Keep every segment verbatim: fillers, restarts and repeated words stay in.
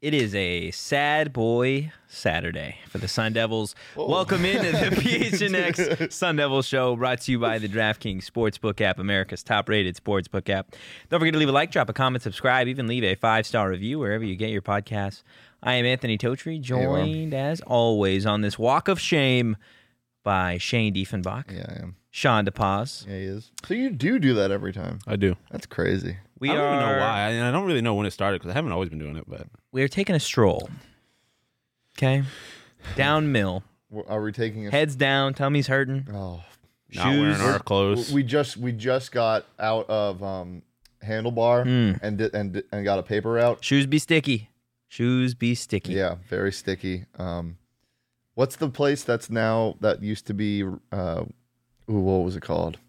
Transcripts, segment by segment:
It is a sad boy Saturday for the Sun Devils. Whoa. Welcome into the P H N X Sun Devils show, brought to you by the DraftKings Sportsbook app, America's top-rated sportsbook app. Don't forget to leave a like, drop a comment, subscribe, even leave a five-star review wherever you get your podcasts. I am Anthony Totri, joined as always on this walk of shame by Shane Diefenbach. Yeah, I am. Sean DePaz. Yeah, he is. So you do do that every time. I do. That's crazy. We I don't are even know why. I, I don't really know when it started because I haven't always been doing it. But we are taking a stroll. Okay, down mill, Are we taking a heads down, tummy's hurting. Oh, not wearing our clothes. we just we just got out of um, Handlebar Mm. and did, and did- and got a paper route. Shoes be sticky. Shoes be sticky. Yeah, very sticky. Um, what's the place that's now that used to be? Uh, ooh, what was it called?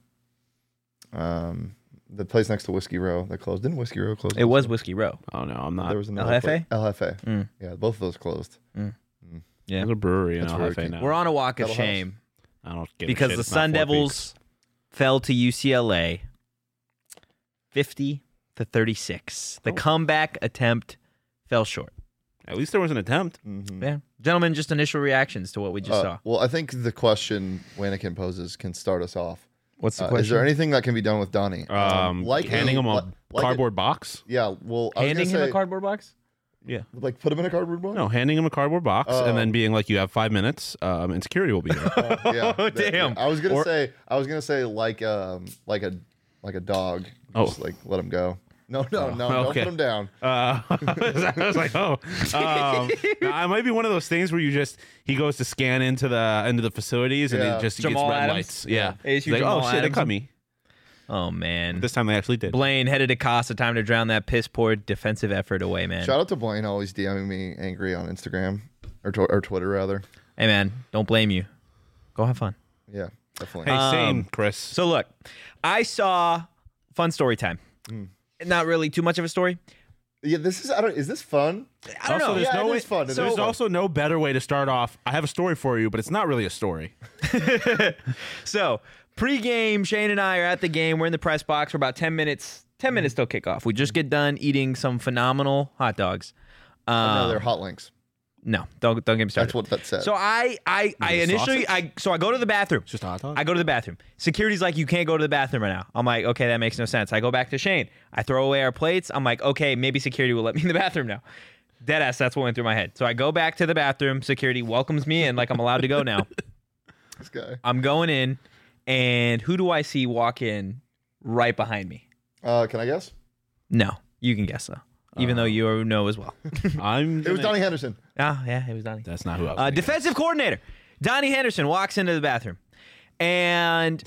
Um, the place next to Whiskey Row that closed. Didn't Whiskey Row close? It was also? Whiskey Row. Oh no, I'm not. There was another L F A? place- L F A. Mm. Yeah, both of those closed. Yeah. There's a brewery in That's L F A very now. We're on a walk of Kettle House. shame I don't give a because shit. the It's not Sun Four Devils Peaks. fell to U C L A fifty to thirty-six. The Oh. comeback attempt fell short. At least there was an attempt. Mhm. Yeah. Gentlemen, just initial reactions to what we just Uh, saw. well, I think the question Wanikin poses can start us off. What's Uh, is there anything that can be done with Donnie? Um, handing him a like- like cardboard box. yeah, well, I was Handing gonna him say, a cardboard box? Yeah. like put him in a cardboard box. No, handing him a cardboard box Oh. and then being like, "You have five minutes, um, and security will be there." Uh, yeah, Oh, that- damn. yeah. I was gonna Or- say, I was gonna say like um like a like a dog. Oh. Just like let him go. No, no, no, okay. don't put him down. Uh, I was like, "Oh, um, no, it might be one of those things where you just he goes to scan into the into the facilities and Yeah. he just Jamal gets red Adams? lights." Yeah, Hey, He's it's you, like, Jamal "Oh shit, they Adams." cut me." Oh, man. This time they actually did. Blaine headed to Casa. Time to drown that piss-poor defensive effort away, man. Shout out to Blaine, always DMing me angry on Instagram or tw- or Twitter rather. Hey, man, don't blame you. Go have fun. Yeah, definitely. Hey, same, Um, Chris. So look, I saw fun story time. Mm. Not really too much of a story. Yeah, this is. I don't. Is this fun? I don't also, know. there's Yeah, no it way, is fun. It there's is fun. also no better way to start off. I have a story for you, but it's not really a story. So pre-game, Shane and I are at the game. We're in the press box for about ten minutes. Ten minutes till kickoff. We just get done eating some phenomenal hot dogs. Oh, Um, no, they're hot links. no, don't don't get me started. That's what that said. So I I I it a initially sausage? I so I go to the bathroom. It's just a hot dog. I go to the bathroom. Security's like, you can't go to the bathroom right now. I'm like, okay, that makes no sense. I go back to Shane. I throw away our plates. I'm like, okay, maybe security will let me in the bathroom now. Deadass, that's what went through my head. So I go back to the bathroom. Security welcomes me in like I'm allowed to go now. this guy. I'm going in, and who do I see walk in right behind me? Uh, can I guess? No, you can guess though, even though you know as well. I'm. It was gonna- Donnie Henderson. Ah, yeah, it was Donnie. That's not who I was. Uh, thinking. defensive coordinator Donnie Henderson walks into the bathroom, and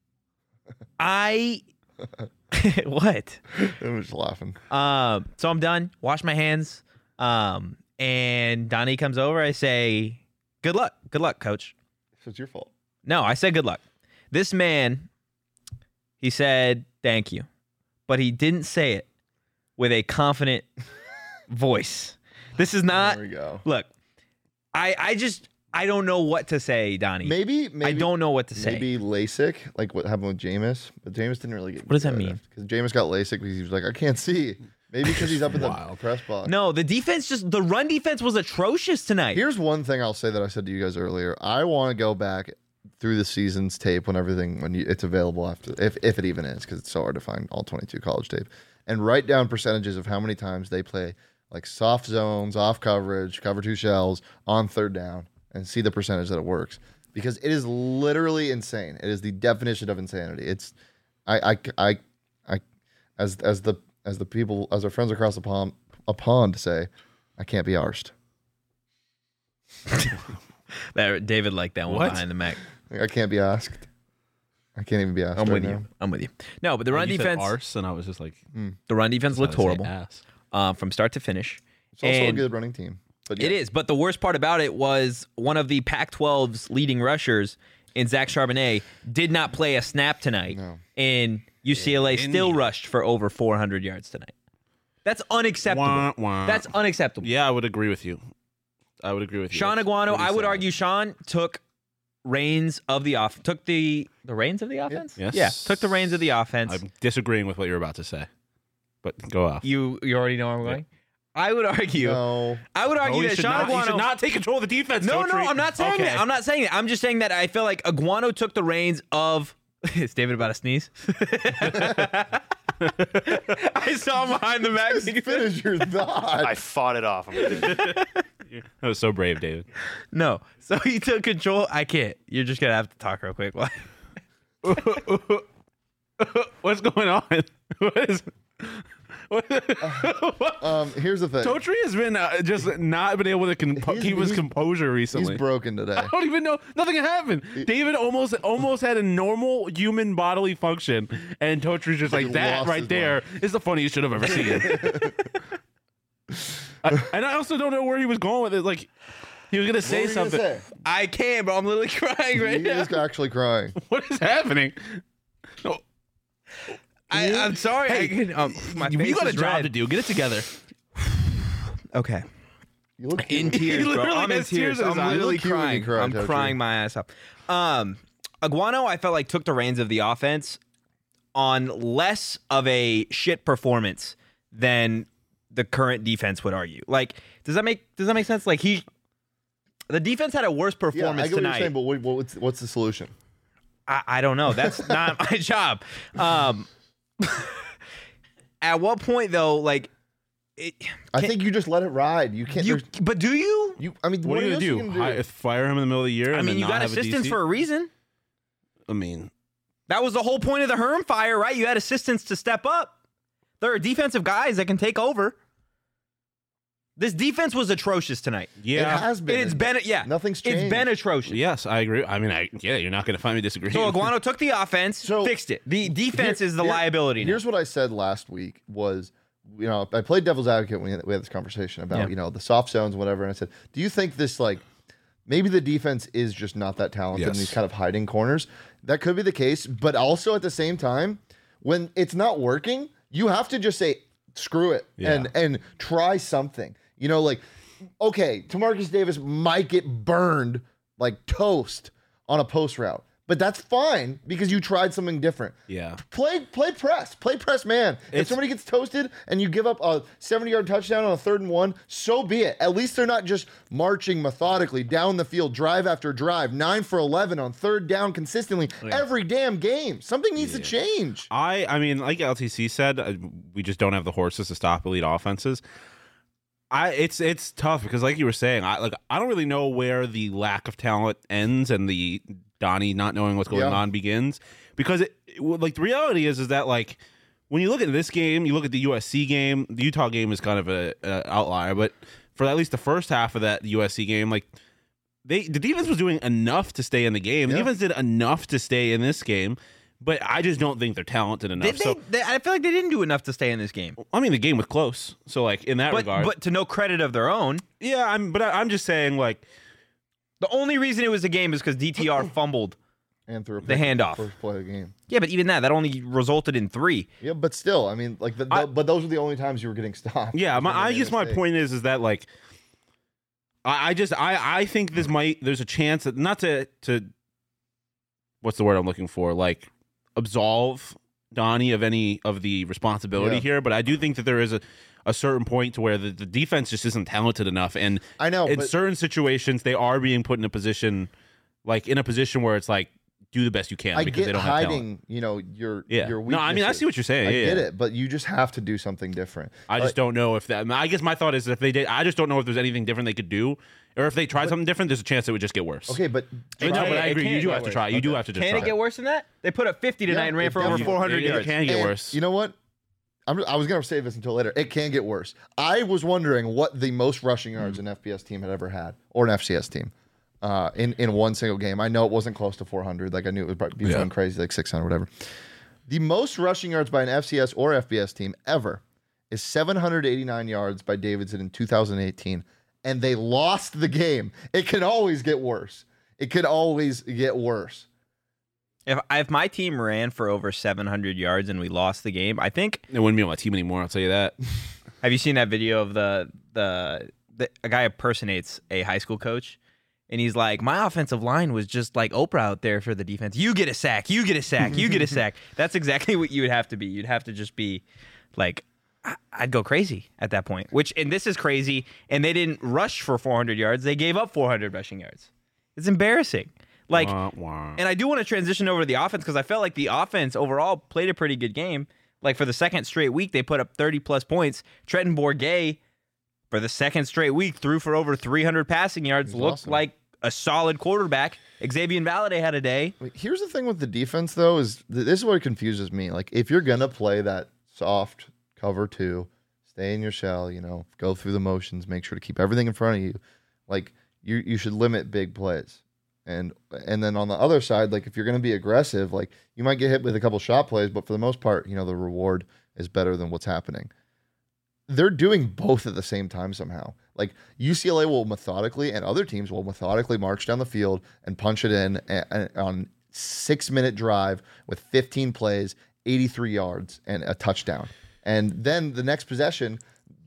I what? I was just laughing. Um, so I'm done. Wash my hands. Um, and Donnie comes over. I say, "Good luck, good luck, coach." So it's your fault. No, I said good luck. This man, he said thank you, but he didn't say it with a confident voice. This is not. There we go. Look, I I just I don't know what to say, Donnie. Maybe, maybe I don't know what to say. Maybe LASIK, like what happened with Jameis, but Jameis didn't really get. What does that mean? Because Jameis got LASIK because he was like, I can't see. Maybe because he's up in the Wild. press box. No, the defense just the run defense was atrocious tonight. Here's one thing I'll say that I said to you guys earlier. I want to go back through the season's tape when everything when you, it's available after, if if it even is, because it's so hard to find all twenty-two college tape, and write down percentages of how many times they play like soft zones, off coverage, cover two shells on third down, and see the percentage that it works. Because it is literally insane. It is the definition of insanity. It's I I I, I as as the as the people as our friends across the pond a pond say, I can't be arsed. That- David liked that one What? behind the Mac. I can't be asked. I can't even be asked. I'm right with now. you. I'm with you. No, but the run You said defense, arse, and I was just like, the run defense looked I would say horrible ass. uh, from start to finish. It's also And a good running team. But It yeah. is, but the worst part about it was one of the Pac twelve's leading rushers in Zach Charbonnet did not play a snap tonight, No. and U C L A In- still rushed for over four hundred yards tonight. That's unacceptable. Wah, wah. That's unacceptable. Yeah, I would agree with you. I would agree with you. Sean That's Aguano, really I would sad. argue Sean took reins of the off took the the reins of the offense. Yes. Yeah, took the reins of the offense. I'm disagreeing with what you're about to say, but go off. You you already know where I'm going. I would argue. No. I would argue No, he that should Sean not, he Aguano. should not take control of the defense. no, Totri. no, I'm not saying okay. that. I'm not saying that. I'm just saying that I feel like Aguano took the reins of. Is David about to sneeze? I saw him behind the back. Just finish your thought. I fought it off. I'm good. That was so brave, David. No. So he took control. I can't. You're just gonna have to talk real quick. What's going on? What is? What? Um, here's the thing. Totri has been uh, just not been able to compo- He's- keep his he's- composure recently. He's broken today. I don't even know. Nothing happened. David almost almost had a normal human bodily function, and Totri's just like He that lost right his there is the funniest shit I've ever seen. I, and I also don't know where he was going with it. Like he was gonna What say were you gonna something. say? I can't, bro. I'm literally crying right He now. is actually crying. What is happening? No, I, I'm sorry. I can, um, my you face got a is job red. to do. Get it together. Okay. You look In cute. tears, bro. literally I'm in has tears tears. in his I'm eyes. literally You look cute when you crying. cry, I'm Tochi. crying my ass off. Um, Aguano, I felt like took the reins of the offense on less of a shit performance than the current defense would argue. Like, does that make does that make sense? Like he, the defense had a worse Yeah, I performance get what you're tonight. saying, but what, what's what's the solution? I, I don't know. That's not my job. Um, at what point though? Like, it, I can- think you just let it ride. You can't. you. there's- But do you? You. I mean, What, are you else gonna do? gonna Hi- fire him in the middle of the year? I and mean, then you not got have a assistants D C? for a reason. I mean, That was the whole point of the Herm fire, right? You had assistants to step up. There are defensive guys that can take over. This defense was atrocious tonight. yeah. It has been. It's been, yeah. Nothing's It's changed. been atrocious. Yes, I agree. I mean, I yeah, you're not going to find me disagreeing. So Aguano took the offense, So- fixed it. The defense Here- is the here- liability now. Here's what I said last week was, you know, I played devil's advocate when we had, we had this conversation about, Yeah. you know, the soft zones and whatever. And I said, do you think this, like, maybe the defense is just not that talented in Yes. these kind of hiding corners? That could be the case. But also at the same time, when it's not working, you have to just say, screw it Yeah. and and try something. You know, like, okay, Tamarcus Davis might get burned like toast on a post route, but that's fine because you tried something different. Yeah. Play play press. Play press man. If It's- somebody gets toasted and you give up a seventy-yard touchdown on a third and one, so be it. At least they're not just marching methodically down the field, drive after drive, nine for eleven on third down consistently every damn game. Something needs to change. I I mean, like L T C said, uh, we just don't have the horses to stop elite offenses. I it's it's tough because, like you were saying, I like I don't really know where the lack of talent ends and the Donnie not knowing what's going Yeah. on begins. Because it, it- well, like the reality is is that like when you look at this game, you look at the U S C game. The Utah game is kind of a, a outlier, but for at least the first half of that U S C game, like they the defense was doing enough to stay in the game. The Yeah. defense did enough to stay in this game. But I just don't think they're talented enough. Did they, so they- I feel like they didn't do enough to stay in this game. I mean, the game was close. So like in that But, regard, but to no credit of their own, yeah, I'm. But I, I'm just saying, like, the only reason it was a game is because D T R fumbled. And through a The pick handoff. first play of the game. Yeah, but even that, that only resulted in three. Yeah, but still, I mean, like, the, the, I- but those were the only times you were getting stopped. yeah. My, When they I made guess my mistakes. point is, is that like, I, I just, I, I think this might. There's a chance that not to, to, what's the word I'm looking for? Like, absolve Donnie of any of the responsibility Yeah. here. But I do think that there is a, a certain point to where the, the defense just isn't talented enough, and I know, in but certain situations they are being put in a position, like in a position where it's like do the best you can I because get they don't have talent. hiding, you know, your Yeah. your No, I mean I weaknesses. see what you're saying. I yeah, get yeah. it, but you just have to do something different. I just don't know if that. I, mean, I guess my thought is if they did, I just don't know if there's anything different they could do, or if they tried something different, there's a chance it would just get worse. Okay, but But no, Try but it. I It agree. You can't do get have to worse. try. You do Okay. have to just Can try. it get worse than that? They put up fifty tonight Yeah, and ran it for over definitely- four hundred it, yards. It can get And worse. You know what? I'm, I was going to save this until later. It can get worse. I was wondering what the most rushing yards an F B S team had ever had, or an F C S team, uh, in, in one single game. I know it wasn't close to four hundred. Like, I knew it would probably be Yeah. something crazy, like six hundred, whatever. The most rushing yards by an F C S or F B S team ever is seven hundred eighty-nine yards by Davidson in two thousand eighteen, and they lost the game. It can always get worse. It can always get worse. If if my team ran for over seven hundred yards and we lost the game, I think. It wouldn't be on my team anymore. I'll tell you that. Have you seen that video of the the, the a guy impersonates a high school coach, and he's like, "My offensive line was just like Oprah out there for the defense. You get a sack, you get a sack, you get a sack." That's exactly what you would have to be. You'd have to just be like, I'd go crazy at that point. Which and this is crazy. And they didn't rush for four hundred yards. They gave up four hundred rushing yards. It's embarrassing. Like, wah, wah. and I do want to transition over to the offense because I felt like the offense overall played a pretty good game. Like for the second straight week, they put up thirty plus points. Trenton Bourguet, for the second straight week, threw for over three hundred passing yards. He's Looked awesome. like a solid quarterback. Xavier Valade had a day. Here's the thing with the defense, though, is th- this is what confuses me. Like, if you're gonna play that soft cover two, stay in your shell, you know, go through the motions, make sure to keep everything in front of you. Like, you you should limit big plays. And and then on the other side, like if you're gonna be aggressive, like you might get hit with a couple shot plays, but for the most part, you know, the reward is better than what's happening. They're doing both at the same time somehow. Like U C L A will methodically, and other teams will methodically march down the field and punch it in a, a, on six minute drive with fifteen plays, eighty-three yards, and a touchdown. And then the next possession,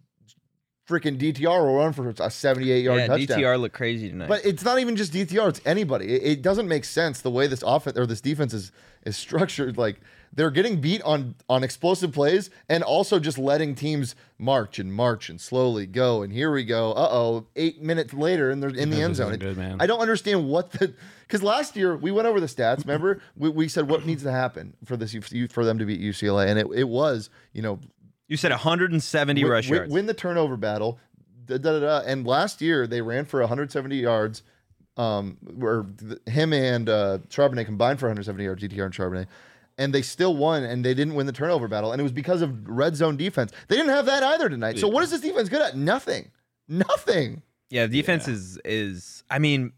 freaking D T R will run for a seventy-eight yard Yeah, touchdown. D T R looked crazy tonight. But it's not even just D T R; it's anybody. It, it doesn't make sense the way this offense or this defense is is structured. Like they're getting beat on on explosive plays and also just letting teams march and march and slowly go. And here we go. Uh oh, eight minutes later, and they're in the This end isn't zone. good, man. I don't understand what the because last year we went over the stats. Remember, we, we said what needs to happen for this for them to beat U C L A, and it it was you know you said one hundred seventy win, rush win, yards. win the turnover battle. Da, da, da, da. And last year they ran for one hundred seventy yards. Um, where th- him and uh, Charbonnet combined for one hundred seventy yards, D T R and Charbonnet, and they still won. And they didn't win the turnover battle, and it was because of red zone defense. They didn't have that either tonight. So what is this defense good at? Nothing. Nothing. Yeah, the defense Yeah. is is I mean,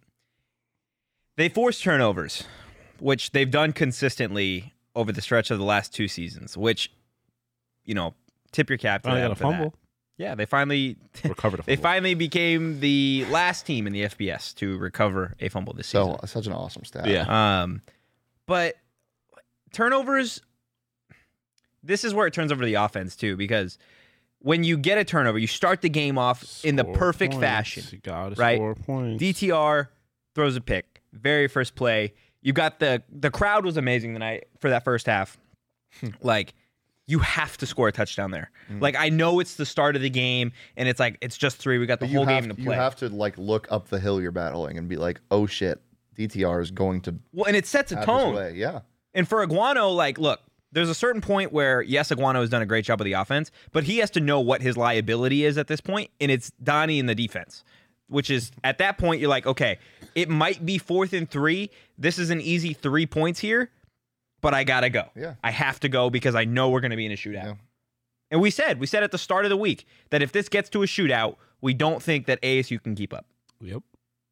they force turnovers, which they've done consistently over the stretch of the last two seasons, which, you know, tip your cap to Finally them got a for that. fumble. Yeah, they finally Recovered a they fumble. finally became the last team in the F B S to recover a fumble this season. So such an awesome stat. Yeah. Um, but turnovers, this is where it turns over to the offense too, because when you get a turnover, you start the game off in the Score perfect points. fashion. You gotta right? score points. D T R throws a pick, very first play. You got the the crowd was amazing tonight for that first half. Like, you have to score a touchdown there. Mm. Like, I know it's the start of the game, and it's like it's just three. We got the But whole you have, game to you play. have to like look up the hill you're battling and be like, oh shit, D T R is going to well, and it sets a have his tone. way. Yeah. And for Iguano, like, look, there's a certain point where, yes, Iguano has done a great job with the offense, but he has to know what his liability is at this point, and it's Donnie in the defense, which is, at that point, you're like, okay, it might be fourth and three. This is an easy three points here, but I got to go. Yeah. I have to go because I know we're going to be in a shootout. Yeah. And we said, we said at the start of the week that if this gets to a shootout, we don't think that A S U can keep up. Yep.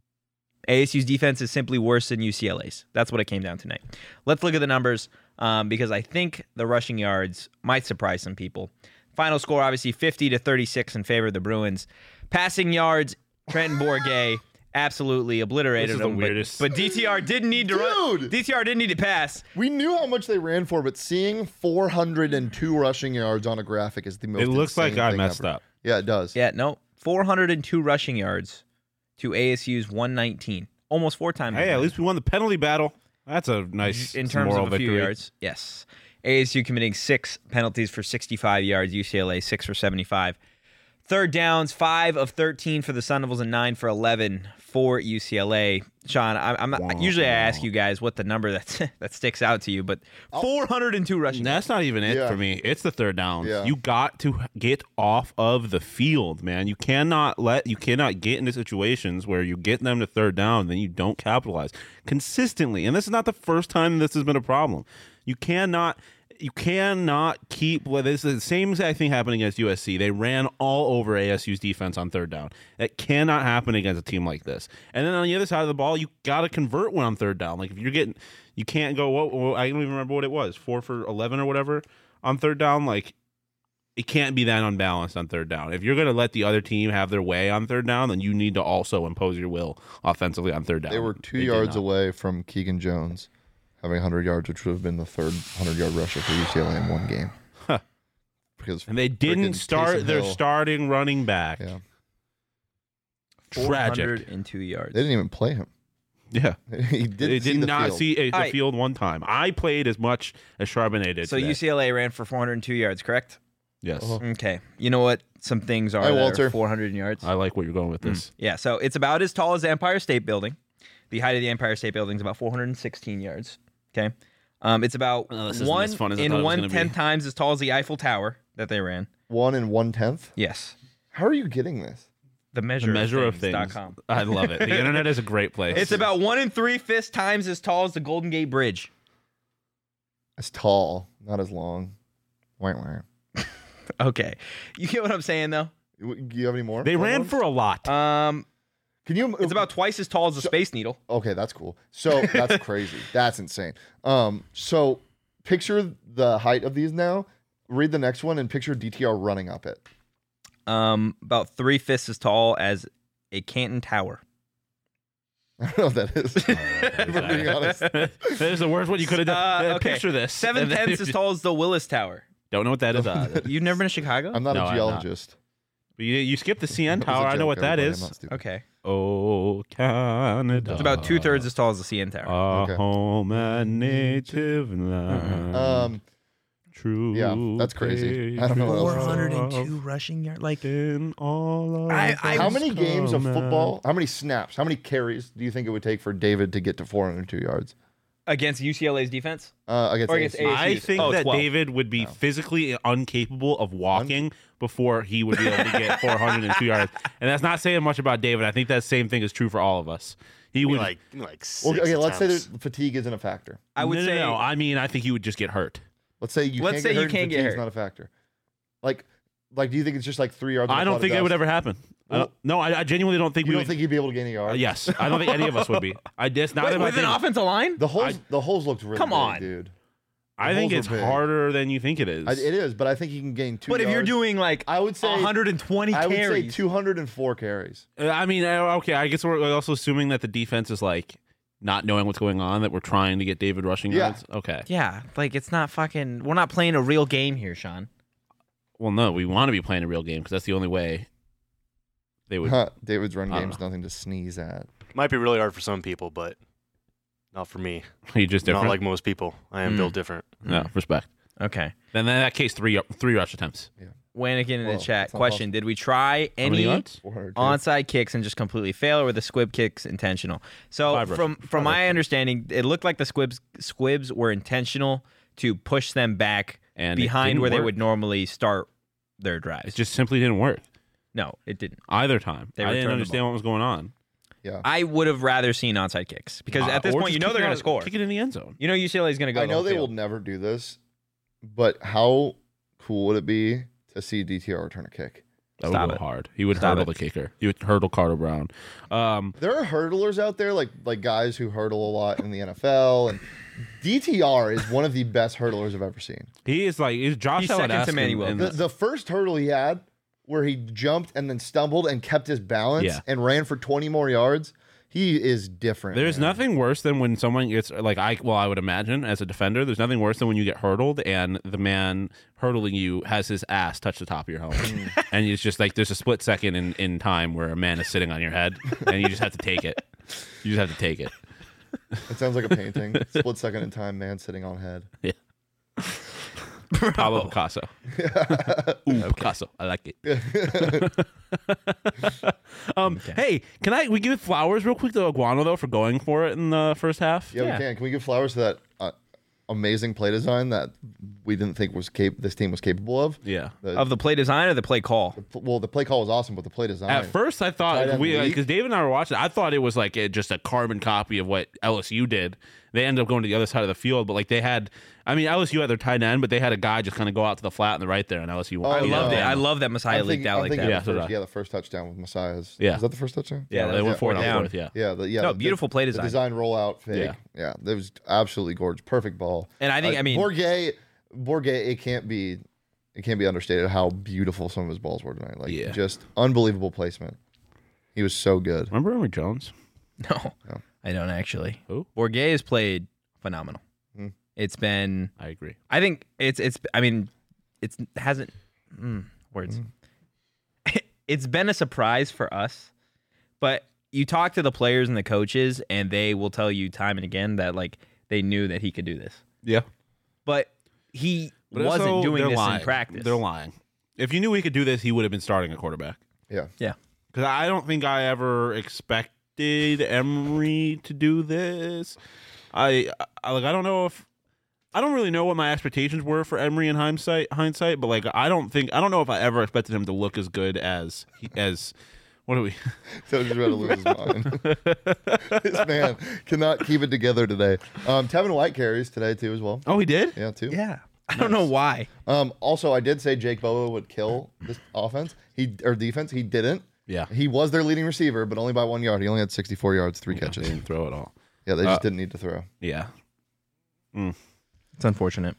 A S U's defense is simply worse than U C L A's. That's what it came down tonight. Let's look at the numbers um, because I think the rushing yards might surprise some people. Final score, obviously, fifty to thirty-six in favor of the Bruins. Passing yards, Trenton Bourguet absolutely obliterated This is the them. but- weirdest- But, D T R didn't need to run. Dude! D T R didn't need to pass. We knew how much they ran for, but seeing four hundred two rushing yards on a graphic is the most. It looks like insane I thing messed ever. up. Yeah, it does. Yeah, no, four hundred two rushing yards to A S U's one nineteen. Almost four times. as Hey, at many. least we won the penalty battle. That's a nice in terms moral of a few victory. yards. Yes. A S U committing six penalties for sixty-five yards. U C L A six for seventy-five. Third downs, five of thirteen for the Sun Devils and nine for eleven for U C L A. Sean, I, I'm not, Wow. usually I ask you guys what the number that that sticks out to you, but four hundred two rushing. That's not even it Yeah. for me. It's the third down. Yeah. You got to get off of the field, man. You cannot let you cannot get into situations where you get them to third down, then you don't capitalize consistently. And this is not the first time this has been a problem. You cannot you cannot keep well, this is the same exact thing happening against U S C. They ran all over A S U's defense on third down. That cannot happen against a team like this. And then on the other side of the ball, you got to convert when on third down. Like if you're getting, you can't go. What well, I don't even remember what it was, four for eleven or whatever on third down. Like it can't be that unbalanced on third down. If you're going to let the other team have their way on third down, then you need to also impose your will offensively on third down. They were two did yards not. away from Keegan Jones having one hundred yards, which would have been the third hundred-yard rusher for U C L A in one game. Huh. Because And they didn't frickin' start Taysom their Hill- starting running back. Yeah, Tragic. four hundred two yards. they didn't even play him. Yeah. he didn't They see did the not field. see a, the Alright. field one time. I played as much as Charbonnet did. So today. U C L A ran for four hundred two yards, correct? Yes. Uh-huh. Okay. You know what some things are Hi, that Walter. are four hundred yards? I like where you're going with this. Yeah, so it's about as tall as the Empire State Building. The height of the Empire State Building is about four hundred sixteen yards. Okay. Um, it's about Oh, this isn't one as fun as I in thought it was one gonna be. tenth times as tall as the Eiffel Tower that they ran. One and one tenth. Yes. How are you getting this? The The measure, measure of of things. things. dot com. I love it. The internet is a great place. It's about one and three fifths times as tall as the Golden Gate Bridge. It's tall, not as long. Wah, wah. Okay. You get what I'm saying, though? Do you have any more? They fun ran ones? for a lot. Um, Can you? it's about twice as tall as the Space Needle. Okay, that's cool. So that's crazy. That's insane. Um, so picture the height of these now. Read the next one and picture D T R running up it. Um, about three fifths as tall as a Canton Tower. I don't know what that is. If we're being honest. There's the worst one you could have done. Uh, Uh, okay. Picture this. Seven And then tenths you as tall as the Willis Tower. Don't know what that is. Uh, You've never been to Chicago? I'm not No, a I'm not. geologist. But you, you skipped the C N That was a Tower. I know joke, what that everybody. I'm is. not stupid. Okay. Oh, Canada. It's about two thirds as tall as the C N Tower. Our Okay. home and native land. Um, True. yeah, that's crazy. I don't know what else to say. four hundred two rushing yards. Like, In all of I- I- How many games of come football? How many snaps? How many carries do you think it would take for David to get to four hundred two yards against U C L A's defense? uh, against Or against A S U? A S U. I think Oh, that twelve. David would be physically incapable of walking before he would be able to get four hundred two yards. And that's not saying much about David. I think that same thing is true for all of us. He Maybe would like like six Well, okay, let's say attempts. that fatigue isn't a factor. I would no, no, say no. I mean, I think he would just get hurt. Let's say you Let's can't say get you hurt. and can't get fatigue's hurt. not a factor. Like, like, do you think it's just like three yards? in a I cloud don't of think that would dust? ever happen. I Well- don't- no, I, I genuinely don't think You we don't would. think you'd be able to gain a yard? uh, yes, I don't think any of us would be. I just not with, that I with an think- offensive line. The holes, I- the holes looked really Come big, on. dude. I think holes it's are big. harder than you think it is. I, it is, but I think you can gain two. But if you're yards. doing like I would say one hundred twenty I would say carries, two hundred four carries. Uh, I mean, uh, okay. I guess we're also assuming that the defense is like not knowing what's going on. That we're trying to get David rushing Yeah. yards. Okay. yeah, like it's not fucking. We're not playing a real game here, Sean. Well, no, we want to be playing a real game because that's the only way they would. Huh, David's run I don't game's nothing to sneeze at. Might be really hard for some people, but not for me. You just different. Not like most people. I am Mm. built different. no respect. Okay. Then in that case, three three rush attempts. Wayne in Whoa, the chat. that's not Question: Did we try How many any yards? four hundred. onside kicks and just completely fail, or were the squib kicks intentional? So Five from rush- from five my rush. understanding, it looked like the squibs squibs were intentional to push them back And it behind didn't where they work. would normally start their drives. It just simply didn't work no, it didn't. either time. They I returned didn't the understand what was going on. Yeah, I would have rather seen onside kicks because Uh, at this or point, you just know kick they're it going out- to score. Kick it in the end zone. You know U C L A is going to go. I know the they whole will field. never do this, but how cool would it be to see D T R return a kick? That Stop would it. go hard. He would Stop hurdle it. the kicker. He would hurdle Carter Brown. Um, There are hurdlers out there, like like guys who hurdle a lot in the N F L, and D T R is one of the best hurdlers I've ever seen. he is like is Josh He's Allen second to asking Manuel. in The, the- the first hurdle he had, where he jumped and then stumbled and kept his balance Yeah. and ran for twenty more yards, he is different. There's man. nothing worse than when someone gets like I well I would imagine as a defender. There's nothing worse than when you get hurdled and the man hurdling you has his ass touch the top of your helmet, Mm. and it's just like there's a split second in, in time where a man is sitting on your head and you just have to take it. You just have to take it. It sounds like a painting. Split second in time, man sitting on head. Pablo Picasso. Ooh, Picasso. I like it. um, Hey, can I we give flowers real quick to Iguano though for going for it in the first half? Yeah, Yeah. we can. Can we give flowers to that uh, amazing play design that we didn't think was cap- this team was capable of? Yeah. The, Of the play design or the play call? well, the play call was awesome, but the play design. At first, I tight thought end we league? because David and I were watching. I thought it was like a, just a carbon copy of what L S U did. They ended up going to the other side of the field, but like they had, I mean, L S U had their tight end, but they had a guy just kind of go out to the flat and the right there, and L S U. Oh, I yeah. loved it. Yeah. I love that Messiah I'm leaked thinking, out I'm like thinking that. Yeah, of so the did first, I. yeah, the first touchdown with Messiah's. Yeah. Is that the first touchdown? Yeah, that they was went it. for it Fourth on down. fourth. Yeah, Yeah, the, yeah. No, the- beautiful play The design. design rollout fake. Yeah. Yeah, that was absolutely gorgeous. Perfect ball. And I think, Uh, I mean, Bourget, Bourget, it can't be, it can't be understated how beautiful some of his balls were tonight. Like, Yeah. just unbelievable placement. He was so good. remember Emory Jones? no, No. I don't actually. Who? Bourget has played phenomenal. Hmm. It's been, I agree. I think it's, it's, I mean, it's hasn't, mm, words. It's been a surprise for us, but you talk to the players and the coaches, and they will tell you time and again that like they knew that he could do this, Yeah, but he but wasn't also, doing they're this lying. in practice. They're lying. if you knew he could do this, he would have been starting a quarterback. Yeah. Yeah. Because I don't think I ever expected Emery to do this. I, I like I don't know if I don't really know what my expectations were for Emery in hindsight. Hindsight, but like I don't think I don't know if I ever expected him to look as good as he, as what are we? So just about to lose his mind. This man cannot keep it together today. Um, Tevin White carries today too as well. Oh, he did. Yeah, too. Yeah. I don't know why. Um, also, I did say Jake Boa would kill this offense. He or defense. He didn't. Yeah. He was their leading receiver, but only by one yard. He only had sixty-four yards, three They catches. didn't throw it all. Yeah, they just Uh, didn't need to throw. Yeah. It's unfortunate.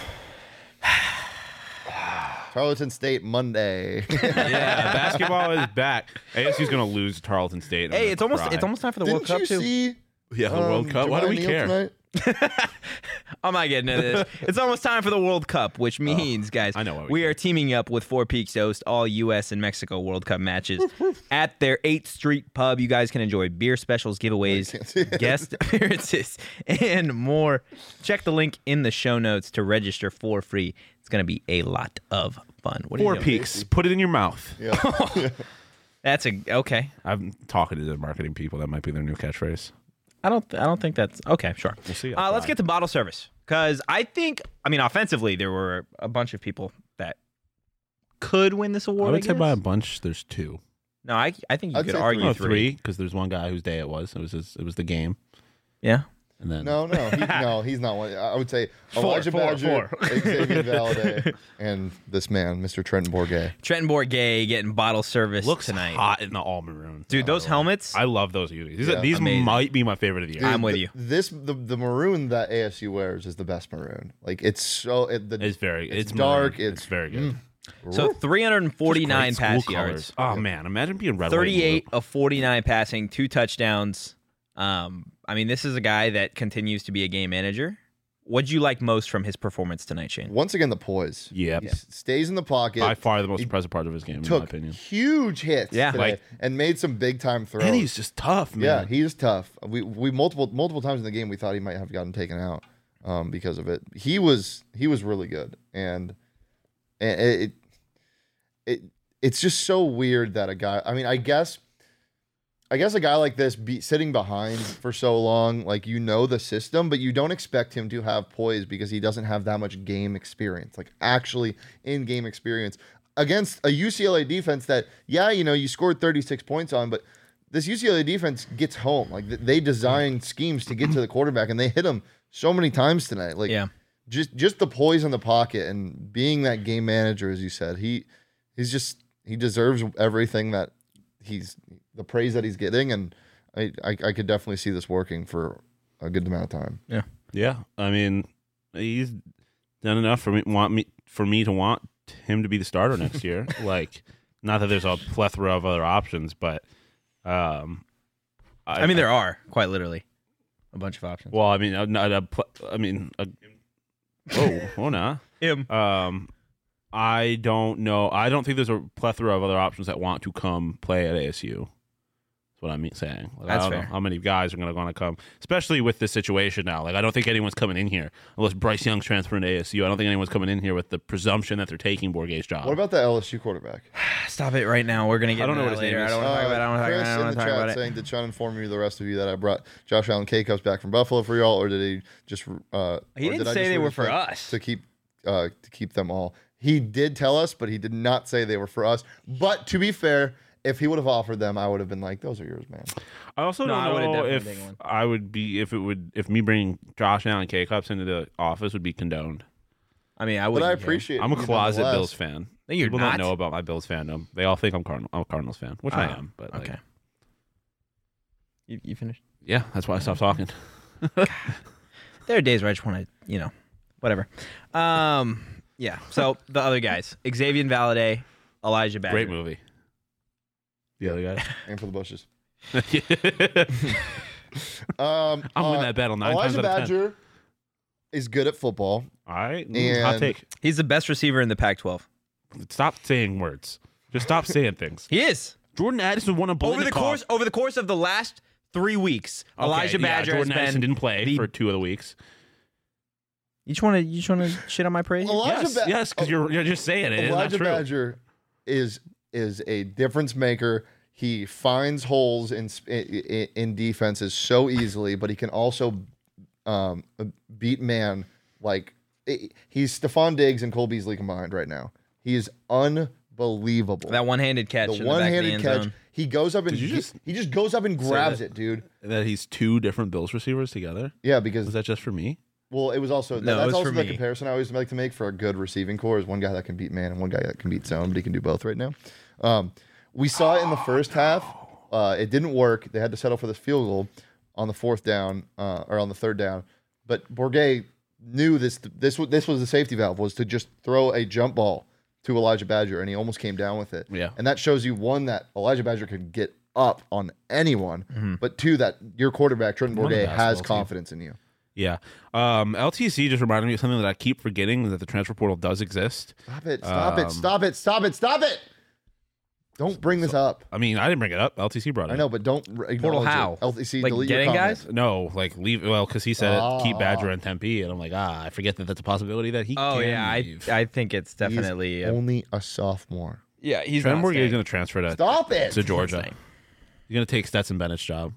Tarleton State Monday. Yeah, basketball is back. A S U's gonna lose to Tarleton State. Hey, it's almost cry. it's almost time for the Didn't World Cup you too. see yeah, the um, World Cup. Why do Jemiah we Neal care? tonight? I'm not getting into this. It's almost time for the World Cup, which means, guys, I know what we we do. are teaming up with Four Peaks to host all U S and Mexico World Cup matches at their eighth Street Pub. You guys can enjoy beer specials, giveaways, can't see it. guest appearances, and more. Check the link in the show notes to register for free. It's going to be a lot of fun. What are Four you doing? Peaks. Put it in your mouth. Yeah. That's a okay. I'm talking to the marketing people. That might be their new catchphrase. I don't. I don't think that's okay. Sure. We'll see. Uh, let's get to bottle service because I think. I mean, offensively, there were a bunch of people that could win this award. I would say guess. by a bunch, there's two. No, I. I think you I'd could say argue No, three. three, because there's one guy whose day it was. It was his, it was the game, Yeah. and then No, no, he, no, he's not one. I would say Four, Elijah four, Badger, four. Xavier Valade, and this man, Mister Trenton Bourget. Trenton Bourget getting bottle service looks tonight. hot in the all maroon. Dude, those helmets. I love those unis. These, Yeah. are, these Amazing. might be my favorite of the year. I'm with th- you. This the the maroon that A S U wears is the best maroon. Like it's so it, the, It's very. it's It's, dark, maroon. it's- It's very good. So three hundred forty-nine Just great pass school yards, colors. Oh man, imagine being red. white, and blue. thirty-eight of forty-nine passing, two touchdowns. Um, I mean, this is a guy that continues to be a game manager. What'd you like most from his performance tonight, Shane? once again the poise. Yeah, He s- stays in the pocket. by far the most He impressive part of his game, in my took opinion. huge hits Yeah. today Like- and made some big time throws. And he's just tough, man. yeah, he's tough. We we multiple multiple times in the game we thought he might have gotten taken out um, because of it. He was he was really good, and, and it, it it it's just so weird that a guy. I mean, I guess. I guess a guy like this be sitting behind for so long, like you know the system, but you don't expect him to have poise because he doesn't have that much game experience, like actually in-game experience against a U C L A defense that, yeah, you know, you scored thirty-six points on, but this U C L A defense gets home. Like th- they designed schemes to get to the quarterback, and they hit him so many times tonight. Like Yeah. just just the poise in the pocket and being that game manager, as you said, he he's just he deserves everything that he's the praise that he's getting, and I, I I could definitely see this working for a good amount of time. Yeah, I mean, he's done enough for me want me for me to want him to be the starter next year. Like, not that there's a plethora of other options, but um, I mean, there are quite literally a bunch of options. Well, I mean, uh, not a pl- I mean, a, whoa, whoa, nah. Him. Um, I don't know. I don't think there's a plethora of other options that want to come play at A S U. That's what I'm mean- saying. Like, That's I don't fair. know how many guys are going to want to come, especially with this situation now. Like, I don't think anyone's coming in here unless Bryce Young's transferring to A S U. I don't think anyone's coming in here with the presumption that they're taking Bourget's job. What about the L S U quarterback? Stop it right now. We're gonna get I don't know into what that his later. name I is. don't want to talk about it. I don't want to talk Chris about it. I in don't want the to talk chat about it. saying, did Sean inform you, the rest of you, that I brought Josh Allen K Cups back from Buffalo for y'all, or did he just? Uh, He or didn't did I say just they read were his for thing us. to keep uh, to keep them all. He did tell us, but he did not say they were for us. But to be fair, if he would have offered them, I would have been like, "Those are yours, man." I also No, I don't would've know definitely if taken one. I would be if it would if me bringing Josh Allen K Cups into the office would be condoned. I mean, I But would. I appreciate. I'm a you closet nonetheless. Bills fan. No, you're People not. don't know about my Bills fandom. They all think I'm Cardinal. I'm a Cardinals fan, which I Oh, am. But like, Okay. You, you finished? yeah, that's why I stopped talking. There are days where I just want to, you know, whatever. Um, yeah. So the other guys, Xavier Valade, Elijah Badger. Great movie. The other guy. Aim for the bushes. I'm Um, winning uh, that battle nine Elijah times out of ten. Badger is good at football. All right, mm, hot And- take. He's the best receiver in the Pac twelve. Stop saying words. Just stop saying things. He is. Jordan Addison won a Over the course over the course of the last three weeks, Elijah Badger Jordan has Addison been didn't play the- for two of the weeks. You just want to you just want to shit on my praise? Elijah Yes, Ba- yes, because you're you're just saying it. It's not Elijah true. Badger is is a difference maker. He finds holes in in, in defenses so easily, but he can also um, beat man like he's Stephon Diggs and Cole Beasley combined right now. He is unbelievable. That one-handed catch. the in the back of the one-handed end catch. zone. He goes up and Did you he, just he just goes up and grabs that? it, dude. That he's two different Bills receivers together. Yeah, because Was that just for me? well, it was also No, it that's was also for the me. comparison I always like to make for a good receiving core is one guy that can beat man and one guy that can beat zone, but he can do both right now. Um, we saw it in the first half. Uh, it didn't work. They had to settle for this field goal on the fourth down uh, or on the third down. But Bourget knew this. This was this was the safety valve was to just throw a jump ball to Elijah Badger, and he almost came down with it. Yeah. And that shows you one that Elijah Badger can get up on anyone, Mm-hmm. but two that your quarterback Trenton Won the Bourget basketball has team. confidence in you. Yeah. Um, L T C just reminded me of something that I keep forgetting, that the transfer portal does exist. Stop it! Stop Um, it! Stop it! Stop it! Stop it! Don't bring this up. I mean, I didn't bring it up. L T C brought it I know, but don't r- acknowledge how? it. L T C Like delete your getting comments. guys? No, like leave. Well, because he said Ah. keep Badger and Tempe, and I'm like, ah, I forget that that's a possibility that he. Oh can yeah, I leave. I think it's He's definitely uh, only a sophomore. yeah. He's Trent not Bourget is staying. going to transfer to Stop it! to Georgia. Not staying. He's going to take Stetson Bennett's job.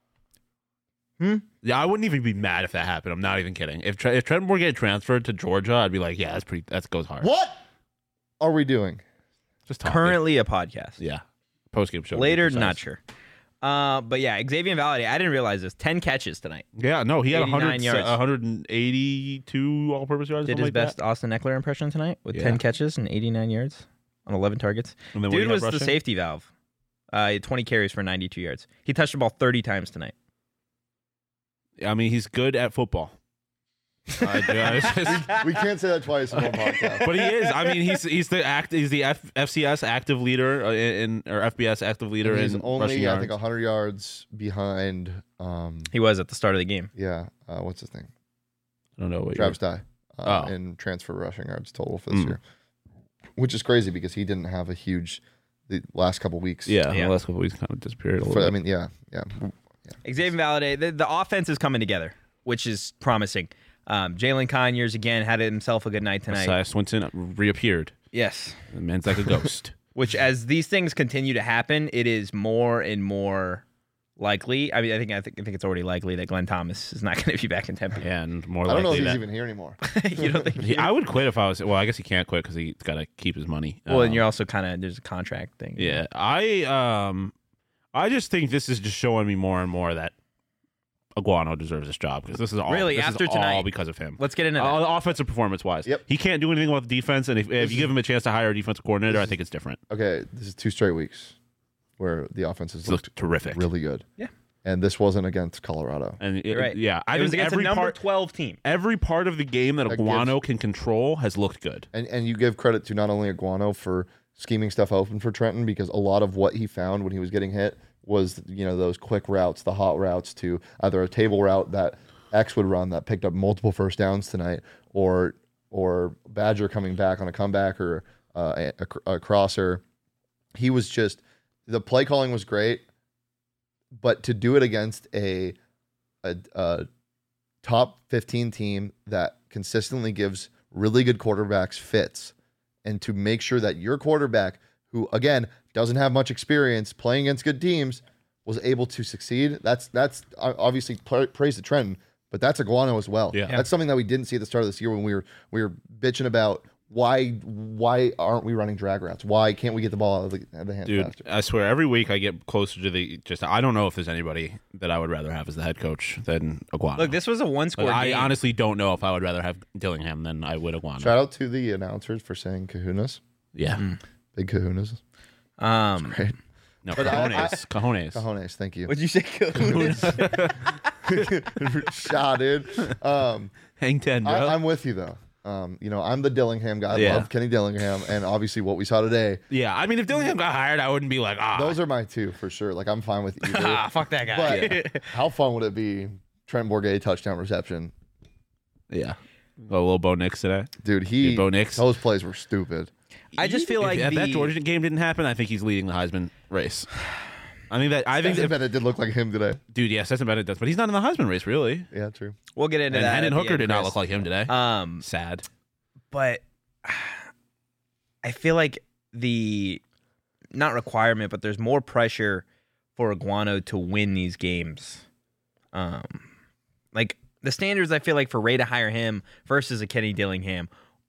Hmm? Yeah, I wouldn't even be mad if that happened. I'm not even kidding. If Tre- if Trent Bourget transferred to Georgia, I'd be like, yeah, that's pretty. That goes hard. What are we doing? Just talking. Currently a podcast. Yeah. Post game show. to be Later, precise. not sure. Uh, but yeah, Xavier Valade. I didn't realize this. Ten catches tonight. Yeah, no, he had eighty-nine one hundred, yards. one hundred eighty-two all-purpose yards. Did something his like best that. Austin Eckler impression tonight with Yeah. ten catches and eighty-nine yards on eleven targets. And then what do Dude you have was the rushing? safety valve. Uh, he had twenty carries for ninety-two yards. He touched the ball thirty times tonight. I mean, he's good at football. I do- I just- We can't say that twice in one podcast. but he is. I mean, he's he's the act. He's the F, FCS active leader uh, in or F B S active leader And he's in only, rushing I yards. think, one hundred yards behind. Um, He was at the start of the game. yeah, uh, what's his name? I don't know what Travis Dye. Uh, Oh. in transfer rushing yards total for this Mm. year, which is crazy because he didn't have a huge the last couple weeks. Yeah, Yeah. the last couple weeks kind of disappeared a little For, bit. I mean, yeah, yeah. Xavier Valade, the, the offense is coming together, which is promising. Um, Jalen Conyers, again, had himself a good night tonight. Messiah Swinton reappeared. Yes. The man's like a ghost. Which, as these things continue to happen, it is more and more likely. I mean, I think I think, I think it's already likely that Glenn Thomas is not going to be back in Tempe. Yeah, and more I don't know if likely he's that. even here anymore. You don't think? He- I would quit if I was. Well, I guess he can't quit because he's got to keep his money. Well, and Um, you're also kind of there's a contract thing. Yeah, I um, I just think this is just showing me more and more that Iguano deserves this job because this is all Really? this After is all tonight? because of him. Let's get into that. Uh, offensive performance wise, Yep. he can't do anything about the defense, and if, if This you is- give him a chance to hire a defensive coordinator, I think it's different. Okay, this is two straight weeks where the offense has It's looked looked terrific, really good. Yeah. And this wasn't against Colorado. and it, You're right. yeah, I it was think against every a number part, twelve team. every part of the game that That Iguano gives- can control has looked good. And and you give credit to not only Iguano for scheming stuff open for Trenton because a lot of what he found when he was getting hit was, you know, those quick routes, the hot routes to either a table route that X would run that picked up multiple first downs tonight, or or Badger coming back on a comeback or uh, a, a, a crosser. He was just the play calling was great, but to do it against a a, a top fifteen team that consistently gives really good quarterbacks fits, and to make sure that your quarterback, who again doesn't have much experience playing against good teams, was able to succeed. That's that's uh, obviously pra- praise to Trenton, but that's Iguano as well. Yeah. That's something that we didn't see at the start of this year when we were we were bitching about why why aren't we running drag routes? Why can't we get the ball out of the, out of the hands Dude, faster? I swear, every week I get closer to the. Just I don't know if there's anybody that I would rather have as the head coach than Iguano. Look, this was a one Like, score I game. honestly don't know if I would rather have Dillingham than I would Iguano. Shout out to the announcers for saying kahunas. Yeah, Mm. Big kahunas. um, Great. no, But I- cojones, cojones. Cojones, thank you. what'd you say? Cahoons? Shot, dude. Um, Hang ten, bro. I, I'm with you though. Um, you know, I'm the Dillingham guy. I Yeah. love Kenny Dillingham, and obviously what we saw today. yeah, I mean, if Dillingham got hired, I wouldn't be like, ah. Those are my two for sure. Like I'm fine with either. ah, fuck that guy. But how fun would it be? Trent Bourget touchdown reception, yeah. A little Bo Nix today. dude. He Dude, Bo Nix. those plays were stupid. I just feel If like if that the- Georgia game didn't happen, I think he's leading the Heisman race. I think that I think Stetson that, Bennett did look like him today. dude, yeah, Stetson Bennett does, but he's not in the Heisman race, really. Yeah, true. We'll get into And that. Hendon at the Hooker end, did not Chris. look like him today. Um, Sad. but I feel like the not requirement, but there's more pressure for Iguano to win these games. Um, like the standards, I feel like for Ray to hire him versus a Kenny Dillingham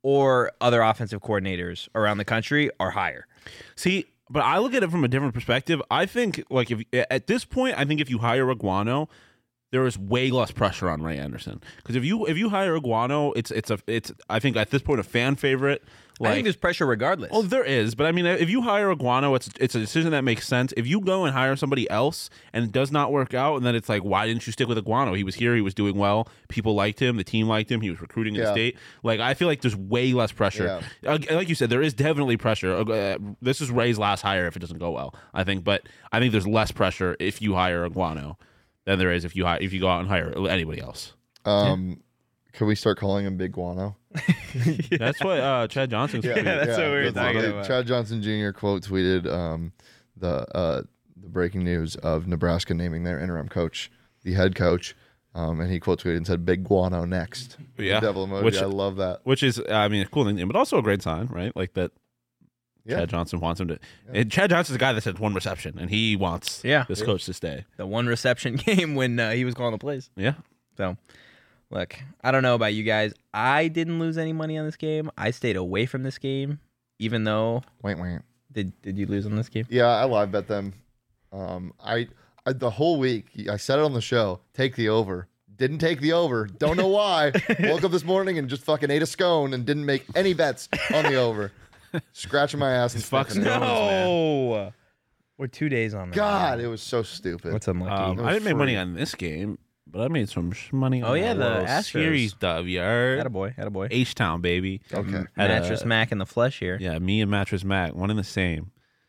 or other offensive coordinators around the country are higher. See, but I look at it from a different perspective. I think, like, if at this point, I think if you hire Iguano, there is way less pressure on Ray Anderson, because if you if you hire Iguano, it's it's a it's I think at this point a fan favorite. Like, I think there's pressure regardless. oh, there is, but I mean, if you hire Iguano, it's it's a decision that makes sense. If you go and hire somebody else and it does not work out, and then it's like, why didn't you stick with Iguano? He was here, he was doing well, people liked him, the team liked him, he was recruiting in Yeah. the state. Like, I feel like there's way less pressure. Uh, like you said, there is definitely pressure. Uh, this is Ray's last hire if it doesn't go well, I think, but I think there's less pressure if you hire Iguano than there is if you hire, if you go out and hire anybody else. Um, Can we start calling him Big Guano? That's what uh, Chad Johnson's. Yeah, that's what we were that's talking what- about. Chad Johnson Junior quote tweeted um, the uh, the breaking news of Nebraska naming their interim coach the head coach, um, and he quote tweeted and said "Big Guano next." Yeah, Devil emoji. which- I love that. Which is, I mean, a cool thing, but also a great sign, right? Like that. Yeah. Chad Johnson wants him to. And Chad Johnson's a guy that had one reception, and he wants Yeah. this coach to stay. the one reception game when uh, he was calling the plays. Yeah. So, look, I don't know about you guys. I didn't lose any money on this game. I stayed away from this game, even though Wait, wait. did did you lose on this game? Yeah, I live bet them. Um, I, I the whole week I said it on the show. Take the over. Didn't take the over. Don't know why. Woke up this morning and just fucking ate a scone and didn't make any bets on the over. Scratching my ass and Fuck sniffing it. scones, man. No, we're two days on. that. God, it was so stupid. what's unlucky? Um, It I was didn't make money free. on this game, but I made some sh- money on Oh, yeah, that the World Astros. Series W. Attaboy, attaboy. H Town, baby. Okay. Had a- Mattress Mac in the flesh here. Yeah, me and Mattress Mac, one and the same.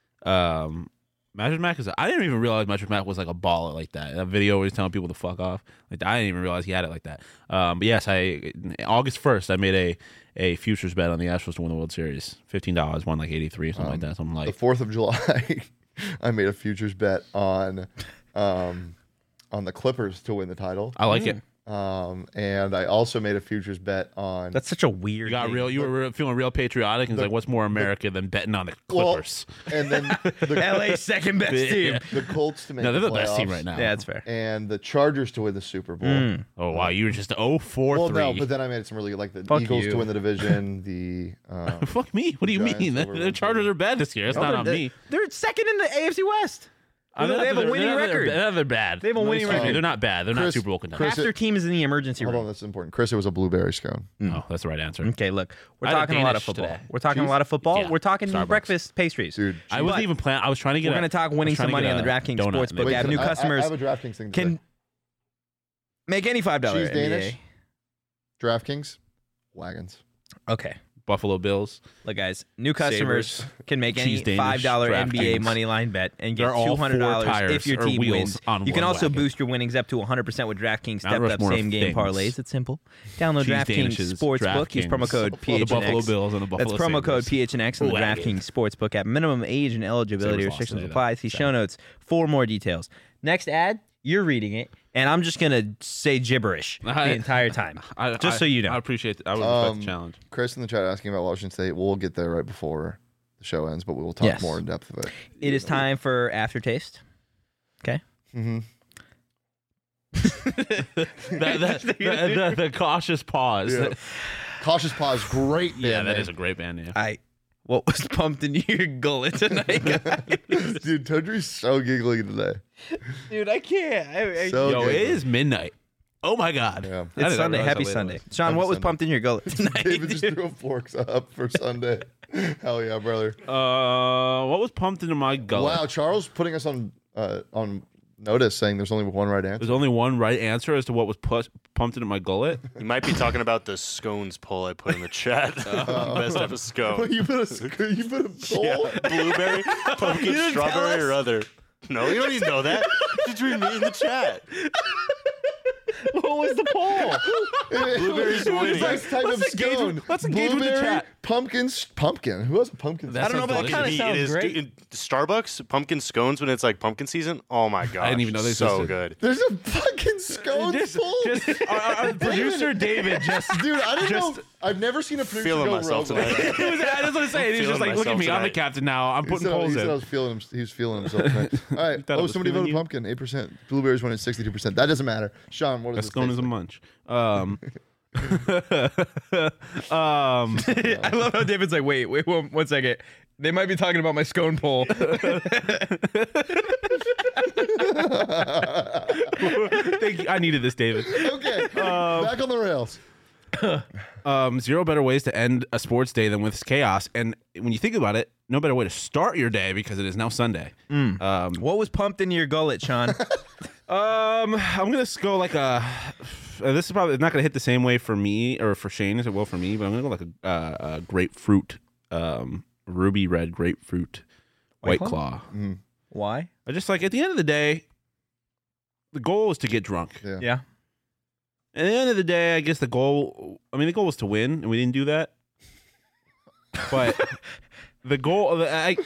Um, Mattress Mac is. I didn't even realize Mattress Mac was like a baller like that. That video was telling people to fuck off. Like I didn't even realize he had it like that. Um, but yes, I August first, I made a a futures bet on the Astros to win the World Series. Fifteen dollars, won like eighty three, something like that. Something The like. fourth of July, I made a futures bet on, um, on the Clippers to win the title. I like it. Um, and I also made a futures bet on. That's such a weird. You got thing. real. You were real, feeling real patriotic, and it's like, what's more America than betting on the Well, Clippers? and then the, L A's second best team. the Colts to make No, they're the, the best team playoffs, right now. Yeah, that's fair. and the Chargers to win the Super Bowl. Mm. Oh wow, you were just oh four Well, three. no, but then I made some really like the Fuck Eagles you. to win the division. The um, Fuck me. What do you Giants mean? The, over the one Chargers thirty. are bad this year. It's not on they're, me. They're second in the A F C West. I'm they not- have a they're- winning they're not- record. They're, they're bad. They have a Let me winning excuse me, record. They're not bad. They're not Chris- Super Bowl contenders. Half their team is in the emergency hold room. on, that's important. Chris, it was a blueberry scone. Oh, that's the right answer. Okay, look, we're I had a talking a lot of Danish football. today. We're talking Cheese? a lot of football. Yeah, We're talking Starbucks. breakfast pastries. Dude, I wasn't But even planning. I was trying to get. We're a- going to talk I was winning trying some to money get on the a DraftKings donut. Sportsbook Wait, app. can New I- I- customers I have a DraftKings thing. can today. make any five dollars. Cheese Danish? DraftKings wagons. Okay. Buffalo Bills. Look, guys, new customers Sabres. can make Cheese any Danish, five dollar N B A DraftKings. money line bet and get They're all two hundred dollars four tires if your or team wheels wins. on You can one also wagon. boost your winnings up to one hundred percent with DraftKings Mount stepped up Rushmore of same game things. parlays. It's simple. Download Cheese DraftKings Danishes, Sportsbook. Use promo DraftKings, code the P H N Buffalo X. Bills and the Buffalo That's promo code Sabres. P H N X on the Wagon. DraftKings Sportsbook app. Minimum age and eligibility Sabres lost restrictions today, apply. though. See Sad. show notes for more details. Next ad, you're reading it, and I'm just gonna say gibberish I- the entire time. I, Just I- so you know. I appreciate. I would respect Um, the challenge. Chris in the chat asking about Washington State. We'll get there right before the show ends, but we will talk Yes. more in depth of it. It is time for aftertaste. Okay. Mm-hmm. the, the, the, the, the cautious pause. Yeah. Yeah, Cautious Pause, great band that name. is a great band name. I what was pumped in your gullet tonight, guys? Dude, Tundry's so giggly today. Dude, I can't. I, I, So Yo, giggly. it is midnight. Oh my god. Yeah. I it's didn't Sunday. realize Happy how late it Sunday. was. Sean, Happy what was Sunday. pumped in your gullet tonight? David just dude? threw forks up for Sunday. Hell yeah, brother. Uh, what was pumped into my gullet? Wow, Charles putting us on uh, on notice saying there's only one right answer. There's only one right answer as to what was pu- pumped into my gullet. You might be talking about the scones poll I put in the chat. Best type of scone. you put a you put a bowl. Yeah, blueberry, pumpkin, didn't tell strawberry, us? or other. No, you don't even know that. Just read me in the chat. What was the poll? Blueberry's winning. Best type Let's of engage scone. with- let's engage with the Blueberry, chat. pumpkins. Pumpkin. Who has a pumpkin? That I don't know, but sounds that kind of It sounds is, great. dude, in Starbucks pumpkin scones when it's like pumpkin season. Oh my god! I didn't even know they so existed. good. There's a fucking scone Just, full. just our, our producer David just Dude, I didn't just- know. I've never seen a producer Feeling go myself rogue like tonight. that. It was, I just want to say, he's feeling just like, look at myself me, I'm the tonight. captain now. I'm He putting said, polls he said I in. was feeling him. He was feeling himself tonight. All right. thought it Oh, was somebody feeling voted you? pumpkin. Eight percent. Blueberries went at sixty-two percent. That doesn't matter. Sean, what A does this scone taste is a like? munch. Um, um, I love how David's like, wait, wait, one, one second. They might be talking about my scone poll. thank you. I needed this, David. Okay. Back on the rails. Um, zero better ways to end a sports day than with chaos. And when you think about it, no better way to start your day because it is now Sunday. Um, What was pumped into your gullet, Sean? Um, I'm gonna go like a. uh, This is probably not gonna hit the same way for me or for Shane as it will for me, but I'm gonna go like a, uh, a grapefruit, um, ruby red grapefruit, White, White Claw. Mm, Why? I just like at the end of the day, the goal is to get drunk. yeah. Yeah. At the end of the day, I guess the goal. I mean, the goal was to win, and we didn't do that. But the goal, I,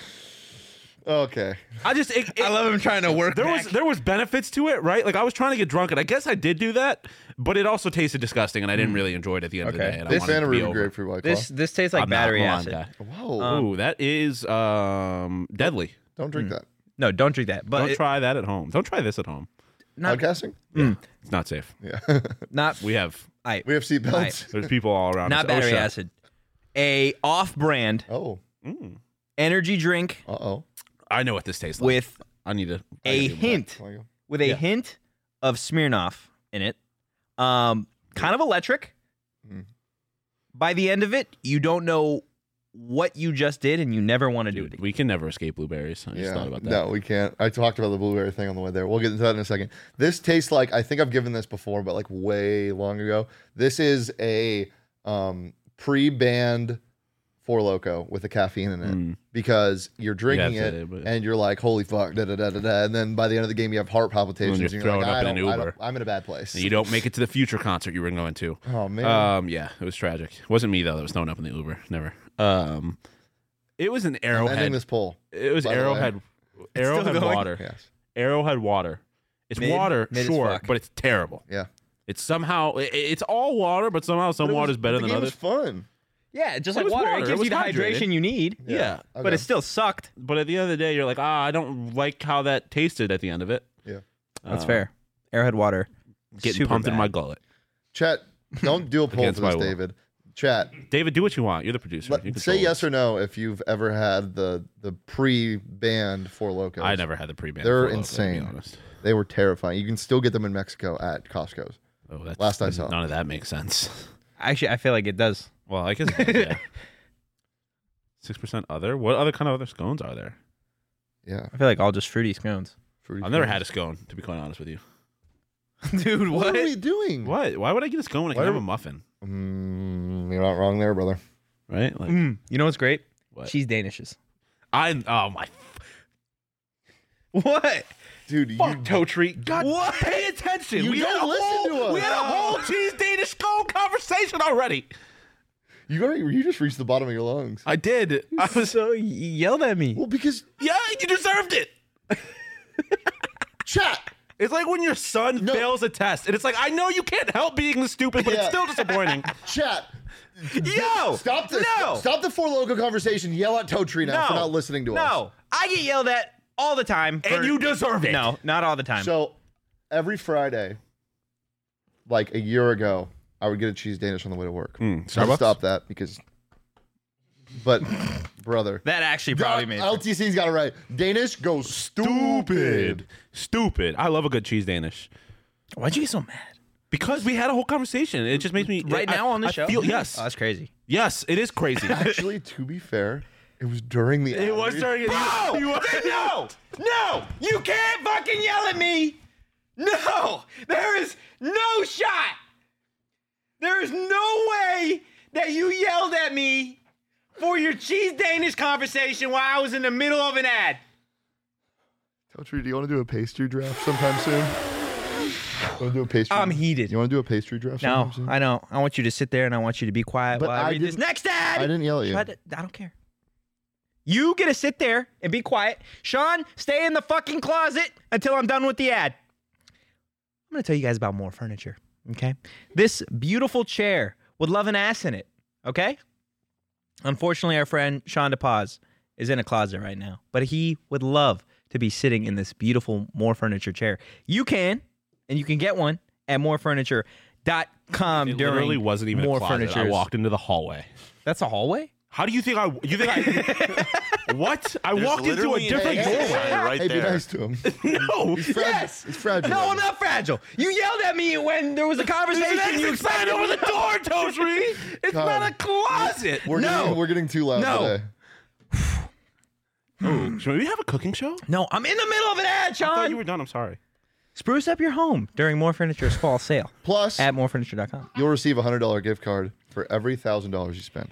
Okay. I just, it, it- I love him trying to work there back. was there was benefits to it, right? Like I was trying to get drunk, and I guess I did do that, but it also tasted disgusting, and I didn't really enjoy it at the end of the Okay. day. And I Big wanted fan it of to be ruby over. grapefruit White Claw. this this tastes like I'm not- battery I'm acid. on that. Whoa. Um, Ooh, that is um, deadly. Don't drink that. No, don't drink that. But Don't it- try that at home. Don't try this at home. not, Podcasting? It's not safe. Yeah. not We have I, we have seatbelts. there's people all around. not us. battery OSHA. acid. A off-brand Oh. Mm. energy drink Uh oh. I know what this tastes like. with I need to I a gotta do that. hint with a Yeah. hint of Smirnoff in it. Um, kind of electric. Mm. By the end of it, you don't know what you just did, and you never want to do it Dude, again. we can never escape blueberries. I just Yeah. thought about that. No, we can't. I talked about the blueberry thing on the way there. We'll get into that in a second. This tastes like, I think I've given this before, but like way long ago. This is a um, pre-banned Four Loko with the caffeine in it Mm. because you're drinking Yeah, it that's it, but- and you're like, holy fuck, da da da da da. And then by the end of the game, you have heart palpitations. you're And you're throwing like, up I in an don't- I Uber. don't- I'm in a bad place. And you don't make it to the future concert you were going to. Oh, man. Um, yeah, it was tragic. It wasn't me though that was thrown up in the Uber. Never. Um, it was an I'm ending Arrowhead. this poll. It was by the way. Arrowhead. Arrowhead going? water. Yes. Arrowhead water. It's Mid- water, mid as sure, fuck. but it's terrible. Yeah. It's somehow it, it's all water, but somehow some But it was- water's better the than game others. was fun. Yeah, just It like was water. water. It It gives was you the hydrated. hydration you need, Yeah, Okay. but it still sucked. but at the end of the day, you're like, ah, I don't like how that tasted at the end of it. Yeah. That's Uh, fair. Arrowhead water. Getting super pumped in bad. my gullet. Chat, don't do a poll Against for this, my will. David. Chat, David, do what you want. You're the producer. let- You say control yes this. or no if you've ever had the the pre-banned Four Locos. I never had the pre-band. They're Four Loko, to be insane. honest. They were terrifying. You can still get them in Mexico at Costco's. Oh, that's, Last I saw. none of that makes sense. Actually, I feel like it does. Well, I guess yeah. Six percent other. What other kind of other scones are there? Yeah. I feel like all just fruity scones. Fruity I've never Pebbles. had a scone, to be quite honest with you. Dude, What are we doing? What? Why would I get a scone when I Why can have are- a muffin? Mm, you're not wrong there, brother. Right? Like Mm, you know what's great? what? Cheese Danishes. I oh my What? Dude, fuck you toe treat. God, What? pay attention. You we don't had a listen whole, to us. We had a whole cheese Danish scone conversation already. you already you just reached the bottom of your lungs. I did. I was So you yelled at me. Well, because yeah. You deserved it. chat. It's like when your son No. fails a test, and it's like I know you can't help being stupid, but Yeah. it's still disappointing. Chat. Yo! Stop the No! stop the Four Loco conversation. Yell at Toe Tree now for No. not listening to us. No, I get yelled at all the time. And for- you deserve it. No, not all the time. So every Friday, like a year ago, I would get a cheese Danish on the way to work. Mm, I Starbucks? stopped that because, but brother, that actually probably made L T C's got it right. Danish goes stupid. Stupid. I love a good cheese Danish. Why'd you get so mad? Because we had a whole conversation. It just makes me Right I- now on the I show? Feel, yes, Oh, that's crazy. yes, it is crazy. Actually, to be fair, it was during the. it was ad read. during. Bro! You, you, No! No! You can't fucking yell at me! No! There is no shot! There is no way that you yelled at me for your cheese Danish conversation while I was in the middle of an ad. Toe Tree, do you want to do a pastry draft sometime soon? Want to do a pastry? I'm heated. You want to do a pastry draft? No, sometime soon? I don't. I want you to sit there and I want you to be quiet But while I, I read this didn't- next ad. I didn't yell at you. Try to- I don't care. You get to sit there and be quiet. Sean, stay in the fucking closet until I'm done with the ad. I'm going to tell you guys about more furniture, okay? This beautiful chair with love and ass in it, okay? Unfortunately, our friend Sean DePaz is in a closet right now, but he would love to be sitting in this beautiful More Furniture chair. You can, and you can get one at more furniture dot com It during literally wasn't even More a closet. I Furniture's- walked into the hallway. That's a hallway? How do you think I? You think I? What? I There's walked into a literally an different exit doorway. sign right Hey, be there. nice to him. No. He's fragile. Yes. He's fragile. No, I'm not fragile. You yelled at me when there was a conversation. There's You an exit sign expected over me the to- door, Toadry. It's God. not a closet. We're No. getting, we're getting too loud No. today. Oh, should we have a cooking show? No, I'm in the middle of an ad, I thought Sean. you were done. I'm sorry. Spruce up your home during More Furniture's fall sale Plus, at more furniture dot com. you'll receive a hundred dollar gift card for every thousand dollars you spend.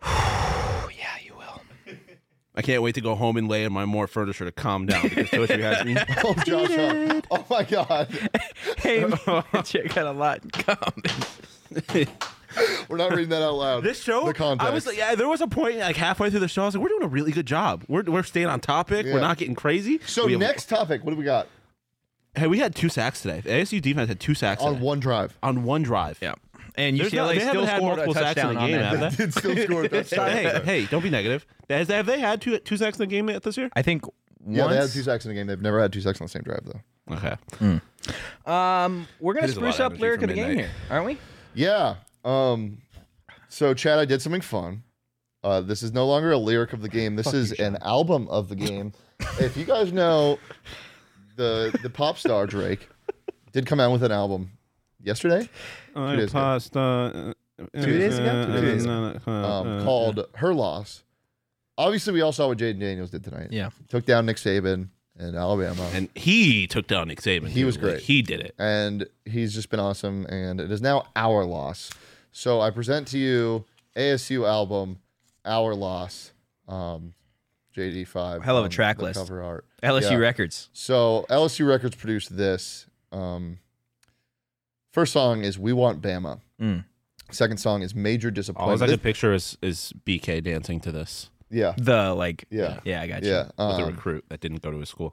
Oh, yeah, you will. I can't wait to go home and lay in my more furniture to calm down because Toadry has me. Oh, Josh! Hart. Oh my God! Hey, you got a lot in common. We're not reading that out loud. This show, The context. I was like, yeah, there was a point like halfway through the show, I was like, we're doing a really good job. We're, we're staying on topic. Yeah. We're not getting crazy. So We have- next topic, what do we got? hey, we had two sacks today. The A S U defense had two sacks On today. one drive. on one drive. Yeah. And There's U C L A not- they still haven't had scored a multiple sacks in touchdown the on game, that. have they? Did still score a touchdown. hey, hey, don't be negative. Has, have they had two two sacks in the game yet this year? I think Yeah, once. they had two sacks in the game. They've never had two sacks on the same drive though. Okay. Um, we're gonna It is a lot spruce of up energy lyric for of the game midnight. here, aren't we? Yeah. Um. So Chad, I did something fun. Uh, this is no longer a lyric of the game. This is an album of the game. If you guys know, the the pop star Drake did come out with an album yesterday I days ago. passed, uh, Two days ago? Two days ago. um, called "Her Loss." Obviously, we all saw what Jaden Daniels did tonight. Yeah. Took down Nick Saban in Alabama, And he took down Nick Saban. He too. was Like, great. he did it. and he's just been awesome. And it is now our loss. So I present to you A S U album, "Our Loss." Um, J D five. Hell of a on track the list. Cover art. L S U Yeah. Records. So L S U Records produced this. Um, first song is "We Want Bama." Mm. Second song is "Major All I Disappointment." can picture is, is B K dancing to this yeah, The like. yeah, Yeah, I got you. yeah. with a Um, recruit that didn't go to his school.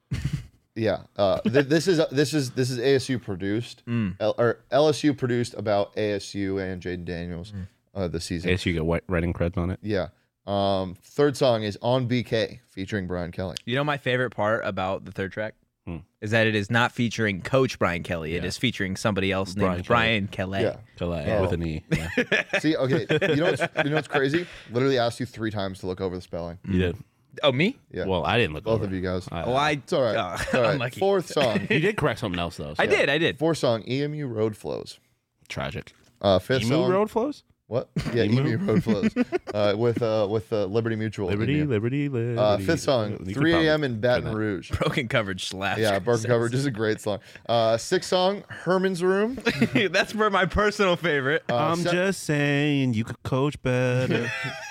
yeah. Uh, th- this is this is this is A S U produced, Mm. L- or L S U produced about A S U and Jaden Daniels uh, this season. I guess you get white writing creds on it. Yeah. Um, third song is "On B K" featuring Brian Kelly. You know my favorite part about the third track Hmm. is that it is not featuring Coach Brian Kelly. It Yeah. is featuring somebody else Brian named Kelly. Brian Kelly. Yeah. Calais Oh. with an E. Yeah. See, okay, you know what's you know what's crazy? Literally asked you three times to look over the spelling. You did. Oh, me? Yeah, Well, I didn't look both over. of you guys. I- Oh, I. It's all right. Oh, It's all right. unlucky. Fourth song. You did correct something else though. So I did. I did. Fourth song, E M U Road Flows. Tragic. Uh, fifth Emu song, road flows. what? Yeah, Emu? Emu Road Flows. Uh, with uh, with uh, Liberty Mutual. Liberty, Emu. liberty, liberty. Uh, fifth song, You could three a.m. in probably Baton do that. Rouge. Broken coverage slash. Yeah, Broken Coverage is a great song. Uh, sixth song, Herman's Room. That's for my personal favorite. Uh, I'm se- just saying you could coach better.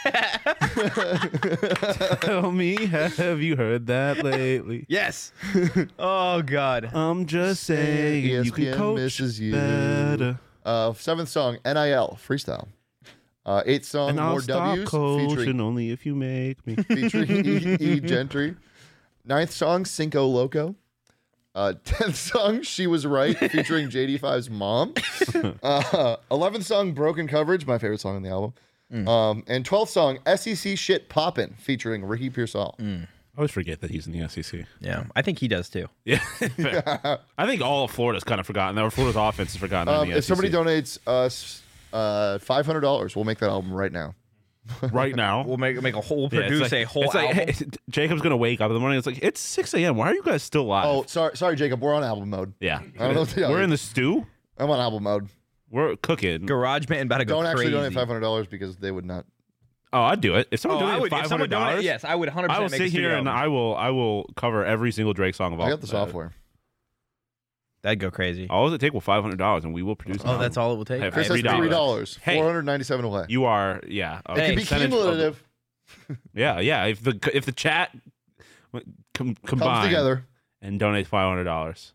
Tell me, have you heard that lately? Yes. Oh God. I'm just saying E S you P can N coach misses you. better. Uh, seventh song, N I L freestyle. Uh, eighth song, And I'll More stop W's coaching featuring only if you make me. featuring e, e Gentry. Ninth song, Cinco Loco. Uh, tenth song, She Was Right, featuring J D five's mom. Uh, eleventh song, Broken Coverage, my favorite song on the album. Um, and twelfth song, S E C Shit Poppin', featuring Ricky Pearsall. I always forget that he's in the S E C. Yeah, I think he does too. Yeah. I think all of Florida's kind of forgotten. Or Florida's offense is forgotten. Um, in the if somebody S E C. donates us uh, five hundred dollars, we'll make that album right now. right now. We'll make make a whole Yeah, it's produce like- a whole it's like, album. hey, Jacob's gonna wake up in the morning. It's like it's six a.m. Why are you guys still live? Oh, sorry, sorry, Jacob. We're on album mode. yeah. I don't know what to tell We're you. in the stew. I'm on album mode. We're cooking. Garage band about to go Don't actually crazy. donate five hundred dollars because they would not. Oh, I'd do it. If Oh, someone I donated would. If five someone hundred donated, dollars, yes, I would one hundred I will percent make a sit here studio and album. I will I will cover every single Drake song of all. I got the uh, software. That'd go crazy. All does it take? Well, five hundred dollars, and we will produce. an Oh, that's album. all it will take. Hey, Chris Three has dollars. three dollars. Hey. Four hundred ninety-seven away. You are, yeah. a It could be percentage of- cumulative. Yeah, yeah. If the if the chat com- Comes combine together. and donate five hundred dollars.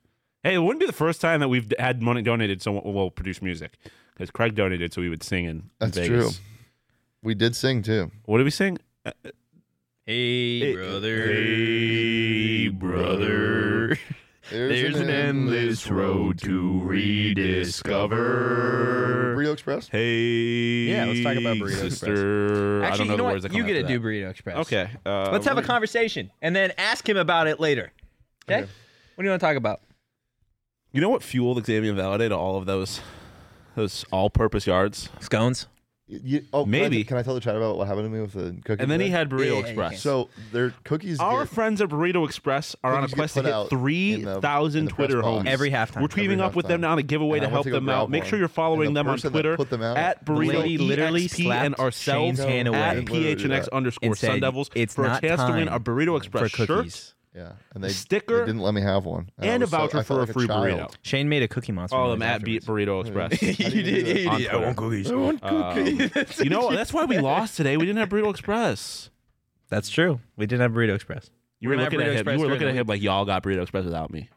Hey, it wouldn't be the first time that we've had money donated so we'll produce music. Because Craig donated so we would sing in That's Vegas. true. We did sing too. What did we sing? Uh, Hey, Hey, brother. hey, brother. There's, an endless road to rediscover. Burrito Express. Hey, Yeah, let's talk about Burrito Express. sister. I Actually, don't know you know the what? words that You come get to after do Burrito Express. that. Okay. Uh, Let's have a what- conversation and then ask him about it later. Okay? Okay. What do you want to talk about? You know what fueled Xavier Valade to all of those those all-purpose yards? Scones. You, you- oh, can I- Maybe. Can I, tell the chat about what happened to me with the cookie? And then he today? had Burrito Yeah, yeah, Express. yeah. So their cookies. Our get- friends at Burrito Express are on a Cookies get quest to put hit out three in the- in thousand the press Twitter box. homies. Every halftime. We're tweeting Every up with them halftime. now to give away And to I went help to go them out. grab Make one. sure you're following And the them on person that Twitter put them out- at The Burrito lady literally E X P slapped and ourselves Shane's hand away. at Didn't P H N X literally do that. underscore And said, Sun Devils "It's for a not chance to win time a Burrito Express for shirt cookies." Yeah, and they Sticker they didn't let me have one, and I a was so- voucher I for felt a like free child. burrito. Shane made a cookie monster. Follow them noise at Beat afterwards. Burrito Express. How do you do that? On Twitter. cookies. Um, you know what? That's why we lost today. We didn't have Burrito Express. That's true. We didn't have Burrito Express. You were We're gonna looking have at Burrito him. Express You were during looking the at him like y'all got Burrito Express without me.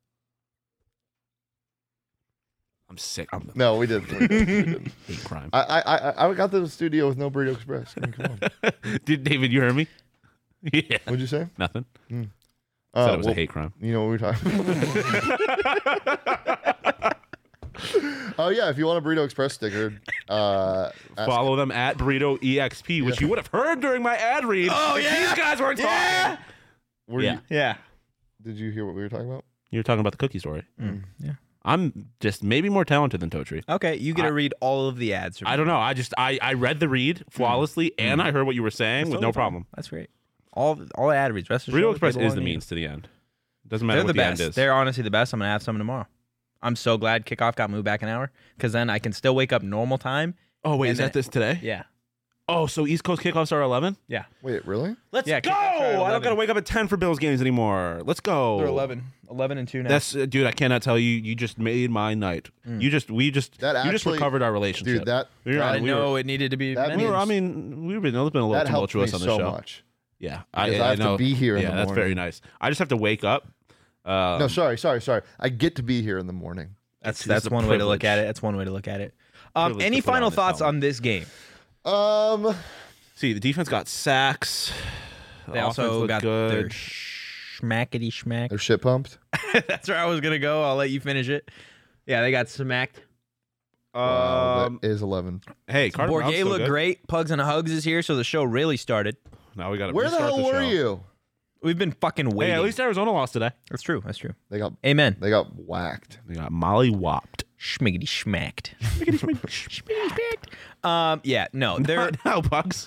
I'm sick. I'm No, we didn't. We didn't. We didn't. hate crime. I, I I I got to the studio with no Burrito Express. I mean, come on. Did David? You heard me? Yeah. What'd you say? Nothing. Uh, Said it was well, a hate crime. You know what we were talking. Oh yeah, if you want a Burrito Express sticker, uh, ask- Follow them at Burrito E X P, which you would have heard during my ad read. Oh, if yeah. These guys weren't talking. were Yeah. you, Yeah. did you hear what we were talking about? You were talking about the cookie story. Yeah. I'm just maybe more talented than Totri. Okay, you get to I- read all of the ads. from I don't know. I just I, I read the read flawlessly and I heard what you were saying with Totally no fine. problem. That's great. All all ad reads. Rest assured, Burrito they Express belong is the to you. means to the end. Doesn't matter They're what the the, best. end is. They're honestly the best. I'm gonna have some tomorrow. I'm so glad kickoff got moved back an hour because then I can still wake up normal time. oh wait, and is then- that this today? Yeah. Oh, so East Coast kickoffs are eleven? Yeah. Wait, really? Let's Yeah, go! kickoffs are at I don't eleven. gotta wake up at ten for Bills games anymore. Let's go. They're eleven. eleven and two now. That's uh, dude. I cannot tell you. You just made my night. You just we just That you just actually- recovered our relationship, Dude, that We were I on- didn't we were- know it needed to be. that mentioned. We were, I means- mean, we've been, it's been a little that helped me tumultuous on the so show. much. Yeah, Because I have to know. be here in Yeah, the that's very morning. nice. I just have to wake up. Um, No, sorry, sorry, sorry. I get to be here in the morning. That's It's- that's it's a one way to look privilege. at it. That's one way to look at it. Um, Privilege any to put final on this thoughts helmet. on this game? Um, See, the defense got sacks. The They offense also looked got good. their schmackety schmack. they're shit pumped. That's where I was gonna go. I'll let you finish it. Yeah, they got smacked. Wow, Um, that is eleven. hey, Carter Brown's Bourget still looked good. great. Pugs and Hugs is here, so the show really started. Now we got to Where the hell were you? We've been fucking Hey, waiting. at least Arizona lost today. that's true. That's true. They got Amen. they got whacked. They got molly whopped. Schmiggity schmacked. Schmiggity schmacked. Um, yeah, no, they're now, Bucks.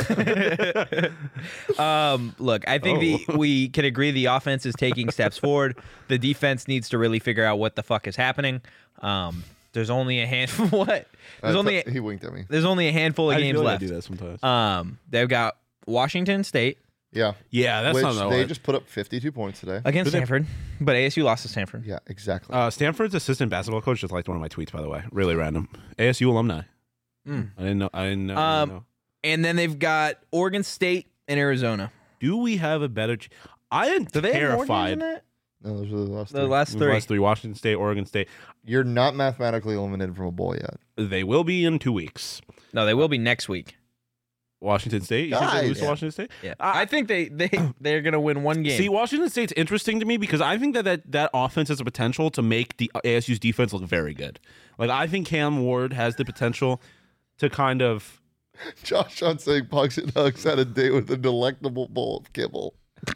um, look, I think the Oh. we can agree the offense is taking steps forward. The defense needs to really figure out what the fuck is happening. Um, there's only a handful. What? There's Uh, only t- he winked at me. there's only a handful of I games feel like I left. do that sometimes. Um, they've got Washington State Yeah, yeah, that's which not the they one. just put up fifty-two points today. against But they- Stanford, but A S U lost to Stanford. Yeah, exactly. Uh, Stanford's assistant basketball coach just liked one of my tweets, by the way. Really random. A S U alumni. Mm. I didn't know. I didn't know. I Um, didn't know. And then they've got Oregon State and Arizona. Do we have a better? Ch- I am Do they have more games terrified. than that? no, those are the last The three. last The three. last three: Washington State, Oregon State. You're not mathematically eliminated from a bowl yet. They will be in two weeks. No, they will be next week. Washington State. You think they Guys. lose to Yeah. Washington State? Yeah, I- I think they they they're gonna win one game. See, Washington State's interesting to me because I think that, that that offense has the potential to make the A S U's defense look very good. Like I think Cam Ward has the potential to kind of. Josh on saying Pugs and Hugs had a date with a delectable bowl of kibble.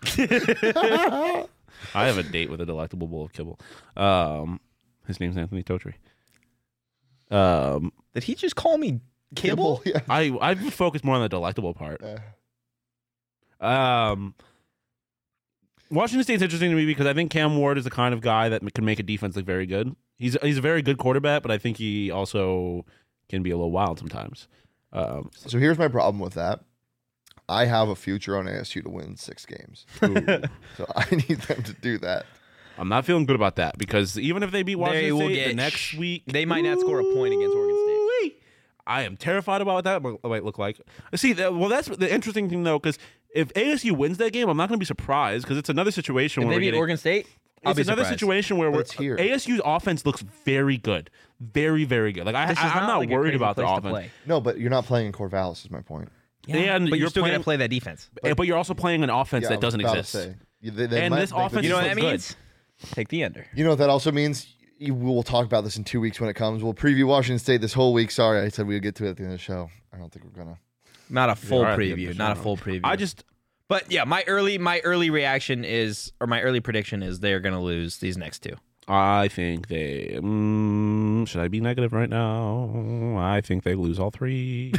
I have a date with a delectable bowl of kibble. Um, his name's Anthony Totri. Um, Did he just call me Kibble? Yeah. I I've focused more on the delectable part. Uh, Um, Washington State's interesting to me because I think Cam Ward is the kind of guy that can make a defense look very good. He's he's a very good quarterback, but I think he also can be a little wild sometimes. Um, so here's my problem with that. I have a future on A S U to win six games. So I need them to do that. I'm not feeling good about that because even if they beat Washington They will State the get next sh- week, they might not score a point against Oregon State. Ooh-wee. I am terrified about what that might might look like. See, that, well, that's the interesting thing though, because if A S U wins that game, I'm not going to be surprised because it's another situation If where they we're beat getting, Oregon State, I'll it's be another surprised. situation where we're, it's here. A S U's offense looks very good, very very good. Like I, This is I I'm not like a worried crazy about the place to offense. play. No, but you're not playing in Corvallis. Is my point. Yeah, And but you're, you're still going playing- to play that defense. But, but you're also playing an offense Yeah, I that was doesn't about to exist. say. You- they- they And might this make the offense You know what that looks good. means? Take the under. You know what that also means? You, we'll talk about this in two weeks when it comes. We'll preview Washington State this whole week. Sorry, I said we'd get to it at the end of the show. I don't think we're gonna. Not a full are at the end of preview. the Not a show. full preview. I just But yeah, my early my early reaction is, or my early prediction is, they're going to lose these next two. I think they. Mm, should I be negative right now? I think they lose all three.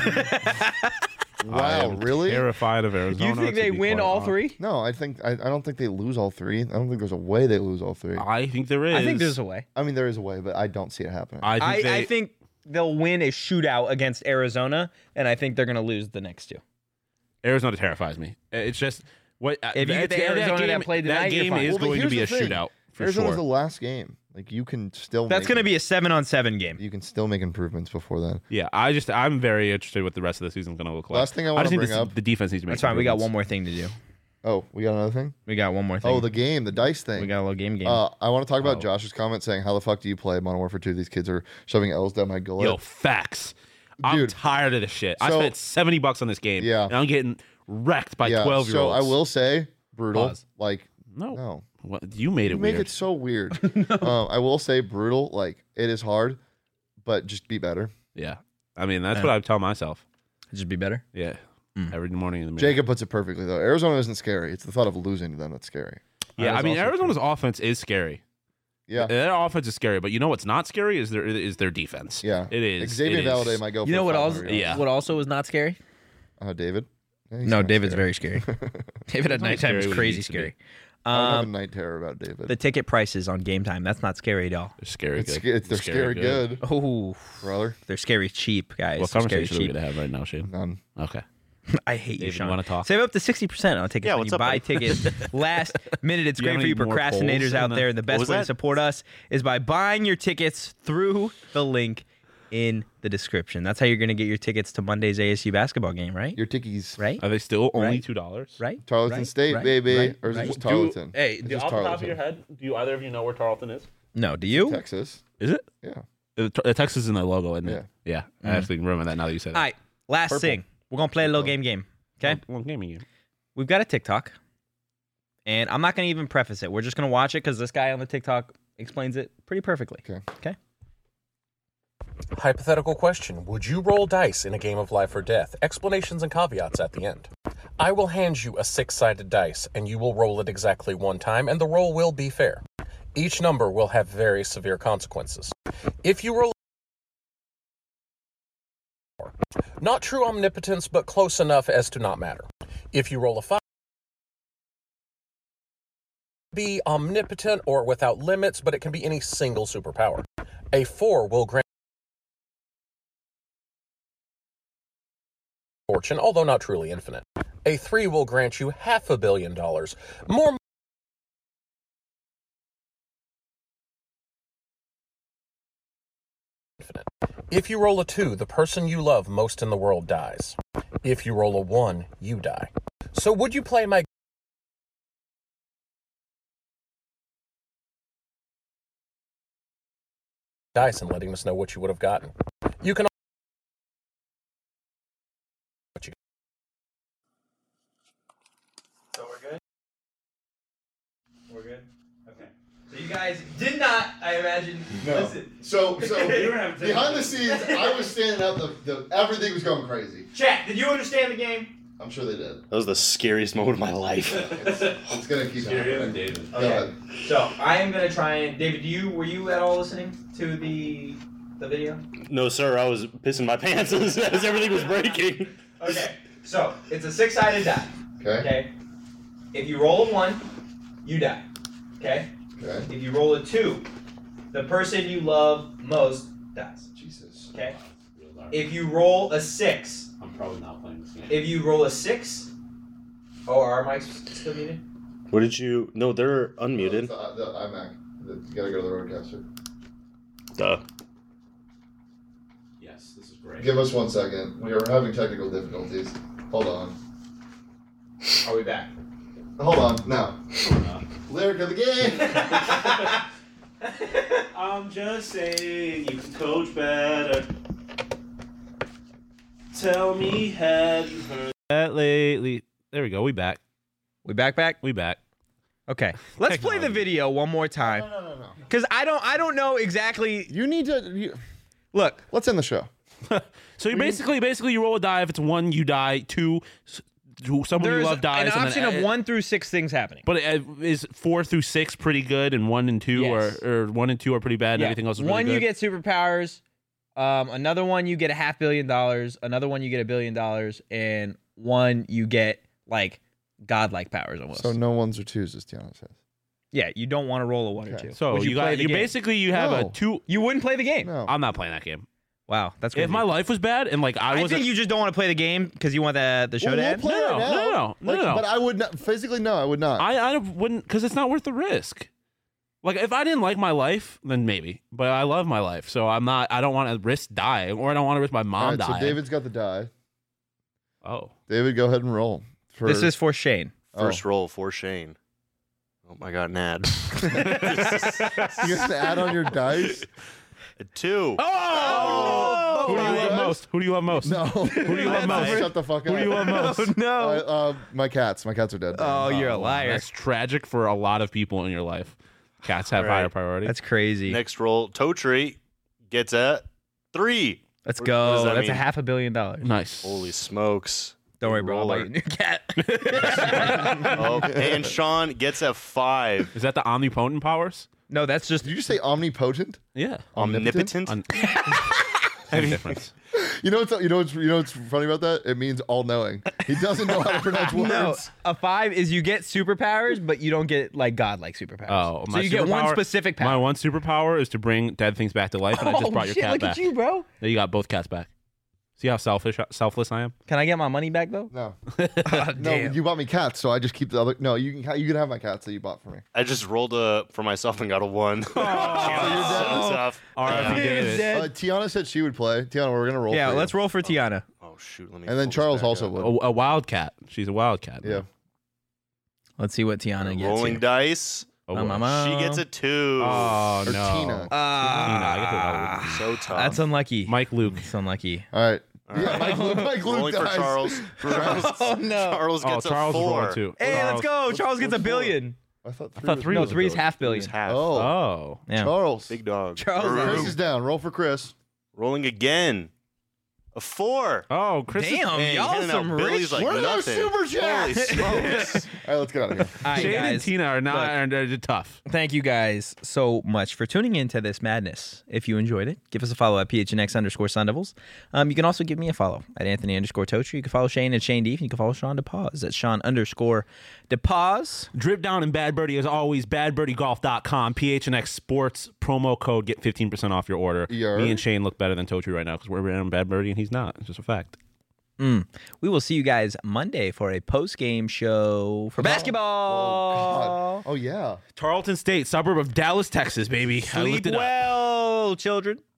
I Wow, am really? Terrified of Arizona. You think to they be win quite all honest. three? No, I think I, I don't think they lose all three. I don't think there's a way they lose all three. I think there is. I think there's a way. I mean, there is a way, but I don't see it happening. I think I, they, I think they'll win a shootout against Arizona, and I think they're going to lose the next two. Arizona terrifies me. It's just what If you get the Arizona that played that tonight, you're game fine. is Well, but going to here's be a the thing. shootout for Arizona's sure. the last game. Like you can still. That's make going to it- be a seven on seven game. You can still make improvements before then. Yeah, I just I'm very interested what the rest of the season's going to look like. Last thing I I wanna just think bring this- up- the defense needs to make. That's fine. We got one improvements. more thing to do. Oh, we got another thing. We got one more thing. Oh, the game, the dice thing. we got a little game game. Uh, I want to talk about Oh. Josh's comment saying, "How the fuck do you play Modern Warfare two? These kids are shoving L's down my gullet." Yo, facts. I'm Dude. tired of this shit. I So- spent seventy bucks on this game. Yeah. and I'm getting wrecked by yeah. twelve year So olds. I will say, brutal. Pause. Like, No, no, What, you made it you make weird. it so weird. um, I will say, brutal. Like, it is hard, but just be better. Yeah, I mean that's Yeah. what I tell myself. Just be better. Yeah, Mm. every morning in the mirror. Jacob puts it perfectly though. Arizona isn't scary. It's the thought of losing to them that's scary. Yeah, That I is mean also Arizona's offense is scary. Yeah, Their offense is scary, but you know what's not scary is their is their defense. yeah. it is. Xavier it is. Valladay might go. You for know what five also? hundred yards. Yeah. What also was not scary? Uh, David. Yeah, he's No, kinda David's scary. very scary. David at He's only nighttime scary is when he crazy needs to be. scary. I don't have a Um, night terror about David. the ticket prices on Game Time. That's not scary at all. They're scary it's, good. sca- it's they're scary, good, Oh, brother. they're scary cheap, guys. What They're scary conversation are we cheap. gonna have right now, Shane? None. Okay. I hate you, David, Sean. wanna talk? Save up to sixty percent on tickets Yeah, when what's you up, buy buddy? tickets last minute. It's Do you great have for you any more procrastinators polls out in the- there. The best was way to that? support us is by buying your tickets through the link in the description. That's how you're going to get your tickets to Monday's A S U basketball game, right? Your tickies. Right? Are they still only Right. two dollars? Right? Tarleton Right? State, Right? baby. Right? Or is it Right? just Tarleton? Hey, It's do, just off the top of Tarleton. your head, do either of you know where Tarleton is? No, do you? Texas. Is it? Yeah. The, the Texas is in the logo, isn't it? Yeah. I Mm. actually remember that now that you said All that. right, last Purple. thing. We're going to play a little Purple. game game. Okay? Well, gaming game. We've got a TikTok, and I'm not going to even preface it. We're just going to watch it because this guy on the TikTok explains it pretty perfectly. Okay. Okay? Hypothetical question. Would you roll dice in a game of life or death? Explanations and caveats at the end. I will hand you a six-sided dice, and you will roll it exactly one time, and the roll will be fair. Each number will have very severe consequences. If you roll not true omnipotence, but close enough as to not matter. If you roll a five, be omnipotent or without limits, but it can be any single superpower. A four will grant fortune, although not truly infinite. A three will grant you half a billion dollars. More infinite. If you roll a two, the person you love most in the world dies. If you roll a one, you die. So would you play my dice and letting us know what you would have gotten? You can So we're good? We're good? Okay. So you guys did not, I imagine, listen. So, so You don't have to- behind the scenes, I was standing up. The, the everything was going crazy. Chat, did you understand the game? I'm sure they did. That was the scariest moment of my life. It's, it's gonna keep happening. David. Go ahead. So I am gonna try and David, do you were you at all listening to the the video? No, sir, I was pissing my pants as, as everything was breaking. Okay. So it's a six sided die. Okay. Okay. If you roll a one, you die. Okay? Okay. If you roll a two, the person you love most dies. Jesus. Okay? If you roll a six, I'm probably not playing this game. if you roll a six, oh, are our mics still muted? What did you... No, they're Oh, unmuted. it's the, the iMac. The, you gotta go to the Rodecaster. Duh. Yes, this is great. Give us one second. We are having technical difficulties. Hold on. Are we back? Hold on. Now. Lyric of the game. I'm just saying you can coach better. Tell me, have you heard that lately? There we go. We back. We back back? We back. Okay. Let's play the video one more time. No, no, no. Because I don't I don't know exactly. You need to. You, Look, let's end the show. So you basically, basically, you roll a die. If it's one, you die. Two, s- who- someone you there's love dies. an and option then, of uh, one through six things happening. But uh, is four through six pretty good, and one and two Yes. are, or one and two are pretty bad, and Yeah. everything else is really One good? you get superpowers. Um, another one you get a half billion dollars. Another one you get a billion dollars, and one you get like godlike powers almost. So no ones or twos, as Tiana says. yeah, you don't want to roll a one or Okay. two. So Would you, play got the you game? basically you have No. a two. you wouldn't play the game. No. I'm not playing that game. Wow, that's crazy. If my life was bad and like I I was, think you just don't want to play the game because you want the the show Well, to we'll end. play No, it no, now. no, no, no, Like, no. But I would not physically. No, I would not. I I wouldn't because it's not worth the risk. Like if I didn't like my life, then maybe. But I love my life, so I'm not. I don't want to risk dying, or I don't want to risk my mom All right, dying. so David's got the die. Oh, David, go ahead and roll. For, This is for Shane. First oh. roll for Shane. Oh, I got an ad. You have to add on your dice. A two. oh! Who do you my love God. most? Who do you love most? No. Who do you love most? Shut the fuck up. Who do you love most? Oh no! Uh, uh, my cats. My cats are dead. oh, you're a Uh, liar. That's tragic for a lot of people in your life. Cats have Right. higher priority. That's crazy. Next roll, Totri gets a three. Let's What- go. what does that That's a mean? half a billion dollars. nice. Holy smokes. Don't worry, Big bro. I'll buy you roller. a new cat. Oh, and Sean gets a five. Is that the omnipotent powers? no, that's just Did you say omnipotent? Yeah. Omnipotent? On- Same difference. You know what's you know what's you know what's funny about that? It means all knowing. He doesn't know how to pronounce words. no. A five is you get superpowers, but you don't get like godlike superpowers. Oh, so my you get one superpower- specific My power. one superpower is to bring dead things back to life, and I just oh, brought your shit, cat look back. at you, bro. There you got both cats back. See how selfish, selfless I am? Can I get my money back though? No, Oh, no, damn. you bought me cats, so I just keep the other. No, you can ha- you can have my cats that you bought for me. I just rolled a for myself and got a one. Oh, So tough. R I P Dude, David. dead. Uh, Tiana said she would play. Tiana, we're gonna roll. yeah, for you. let's roll for Tiana. Oh shoot, let me And then pull this Charles back also up. would. A, a wildcat. She's a wildcat. Yeah. Let's see what Tiana gets. Rolling here. dice. Oh, Um, boy. um, um. She gets a two. Oh, Or no. Tina. Ah, I get the wild. So tough. that's unlucky. Mike Luke. It's unlucky. All right. All Yeah, right. Mike Luke. Mike Luke Rolling for dies. Charles. Oh no! Charles Oh, gets Charles a is four. rolling too. Hey, let's Charles- go. What's- Charles gets a what's billion. I thought three. thought was three No, was a three's billion. half Who's billion. half? Oh, Oh. Yeah. Charles. Big dog. Charles Chris is- is down. Roll for Chris. Rolling again. A four. Oh, Chris. is- Damn, Man, y'all handing some out rich. Billy's like Where are those nothing. super Holy chats? smokes. All right, let's get out of here. All right, Shane and guys. Tina are not Look. are, are tough. Thank you guys so much for tuning into this madness. If you enjoyed it, give us a follow at P H N X underscore Sun Devils. Um, you can also give me a follow at Anthony underscore Totri. You can follow Shane at Shane Deef. And you can follow Sean DePause at Sean underscore DePause. Drip Down and Bad Birdie, as always, bad birdie golf dot com. P H N X Sports promo code. Get fifteen percent off your order. Yeah. Me and Shane look better than Totri right now because we're in Bad Birdie and he's not. It's just a fact. Mm. We will see you guys Monday for a post game show for basketball. God. Oh yeah. Tarleton State, suburb of Dallas, Texas, baby. I Sleep looked it up. well, children.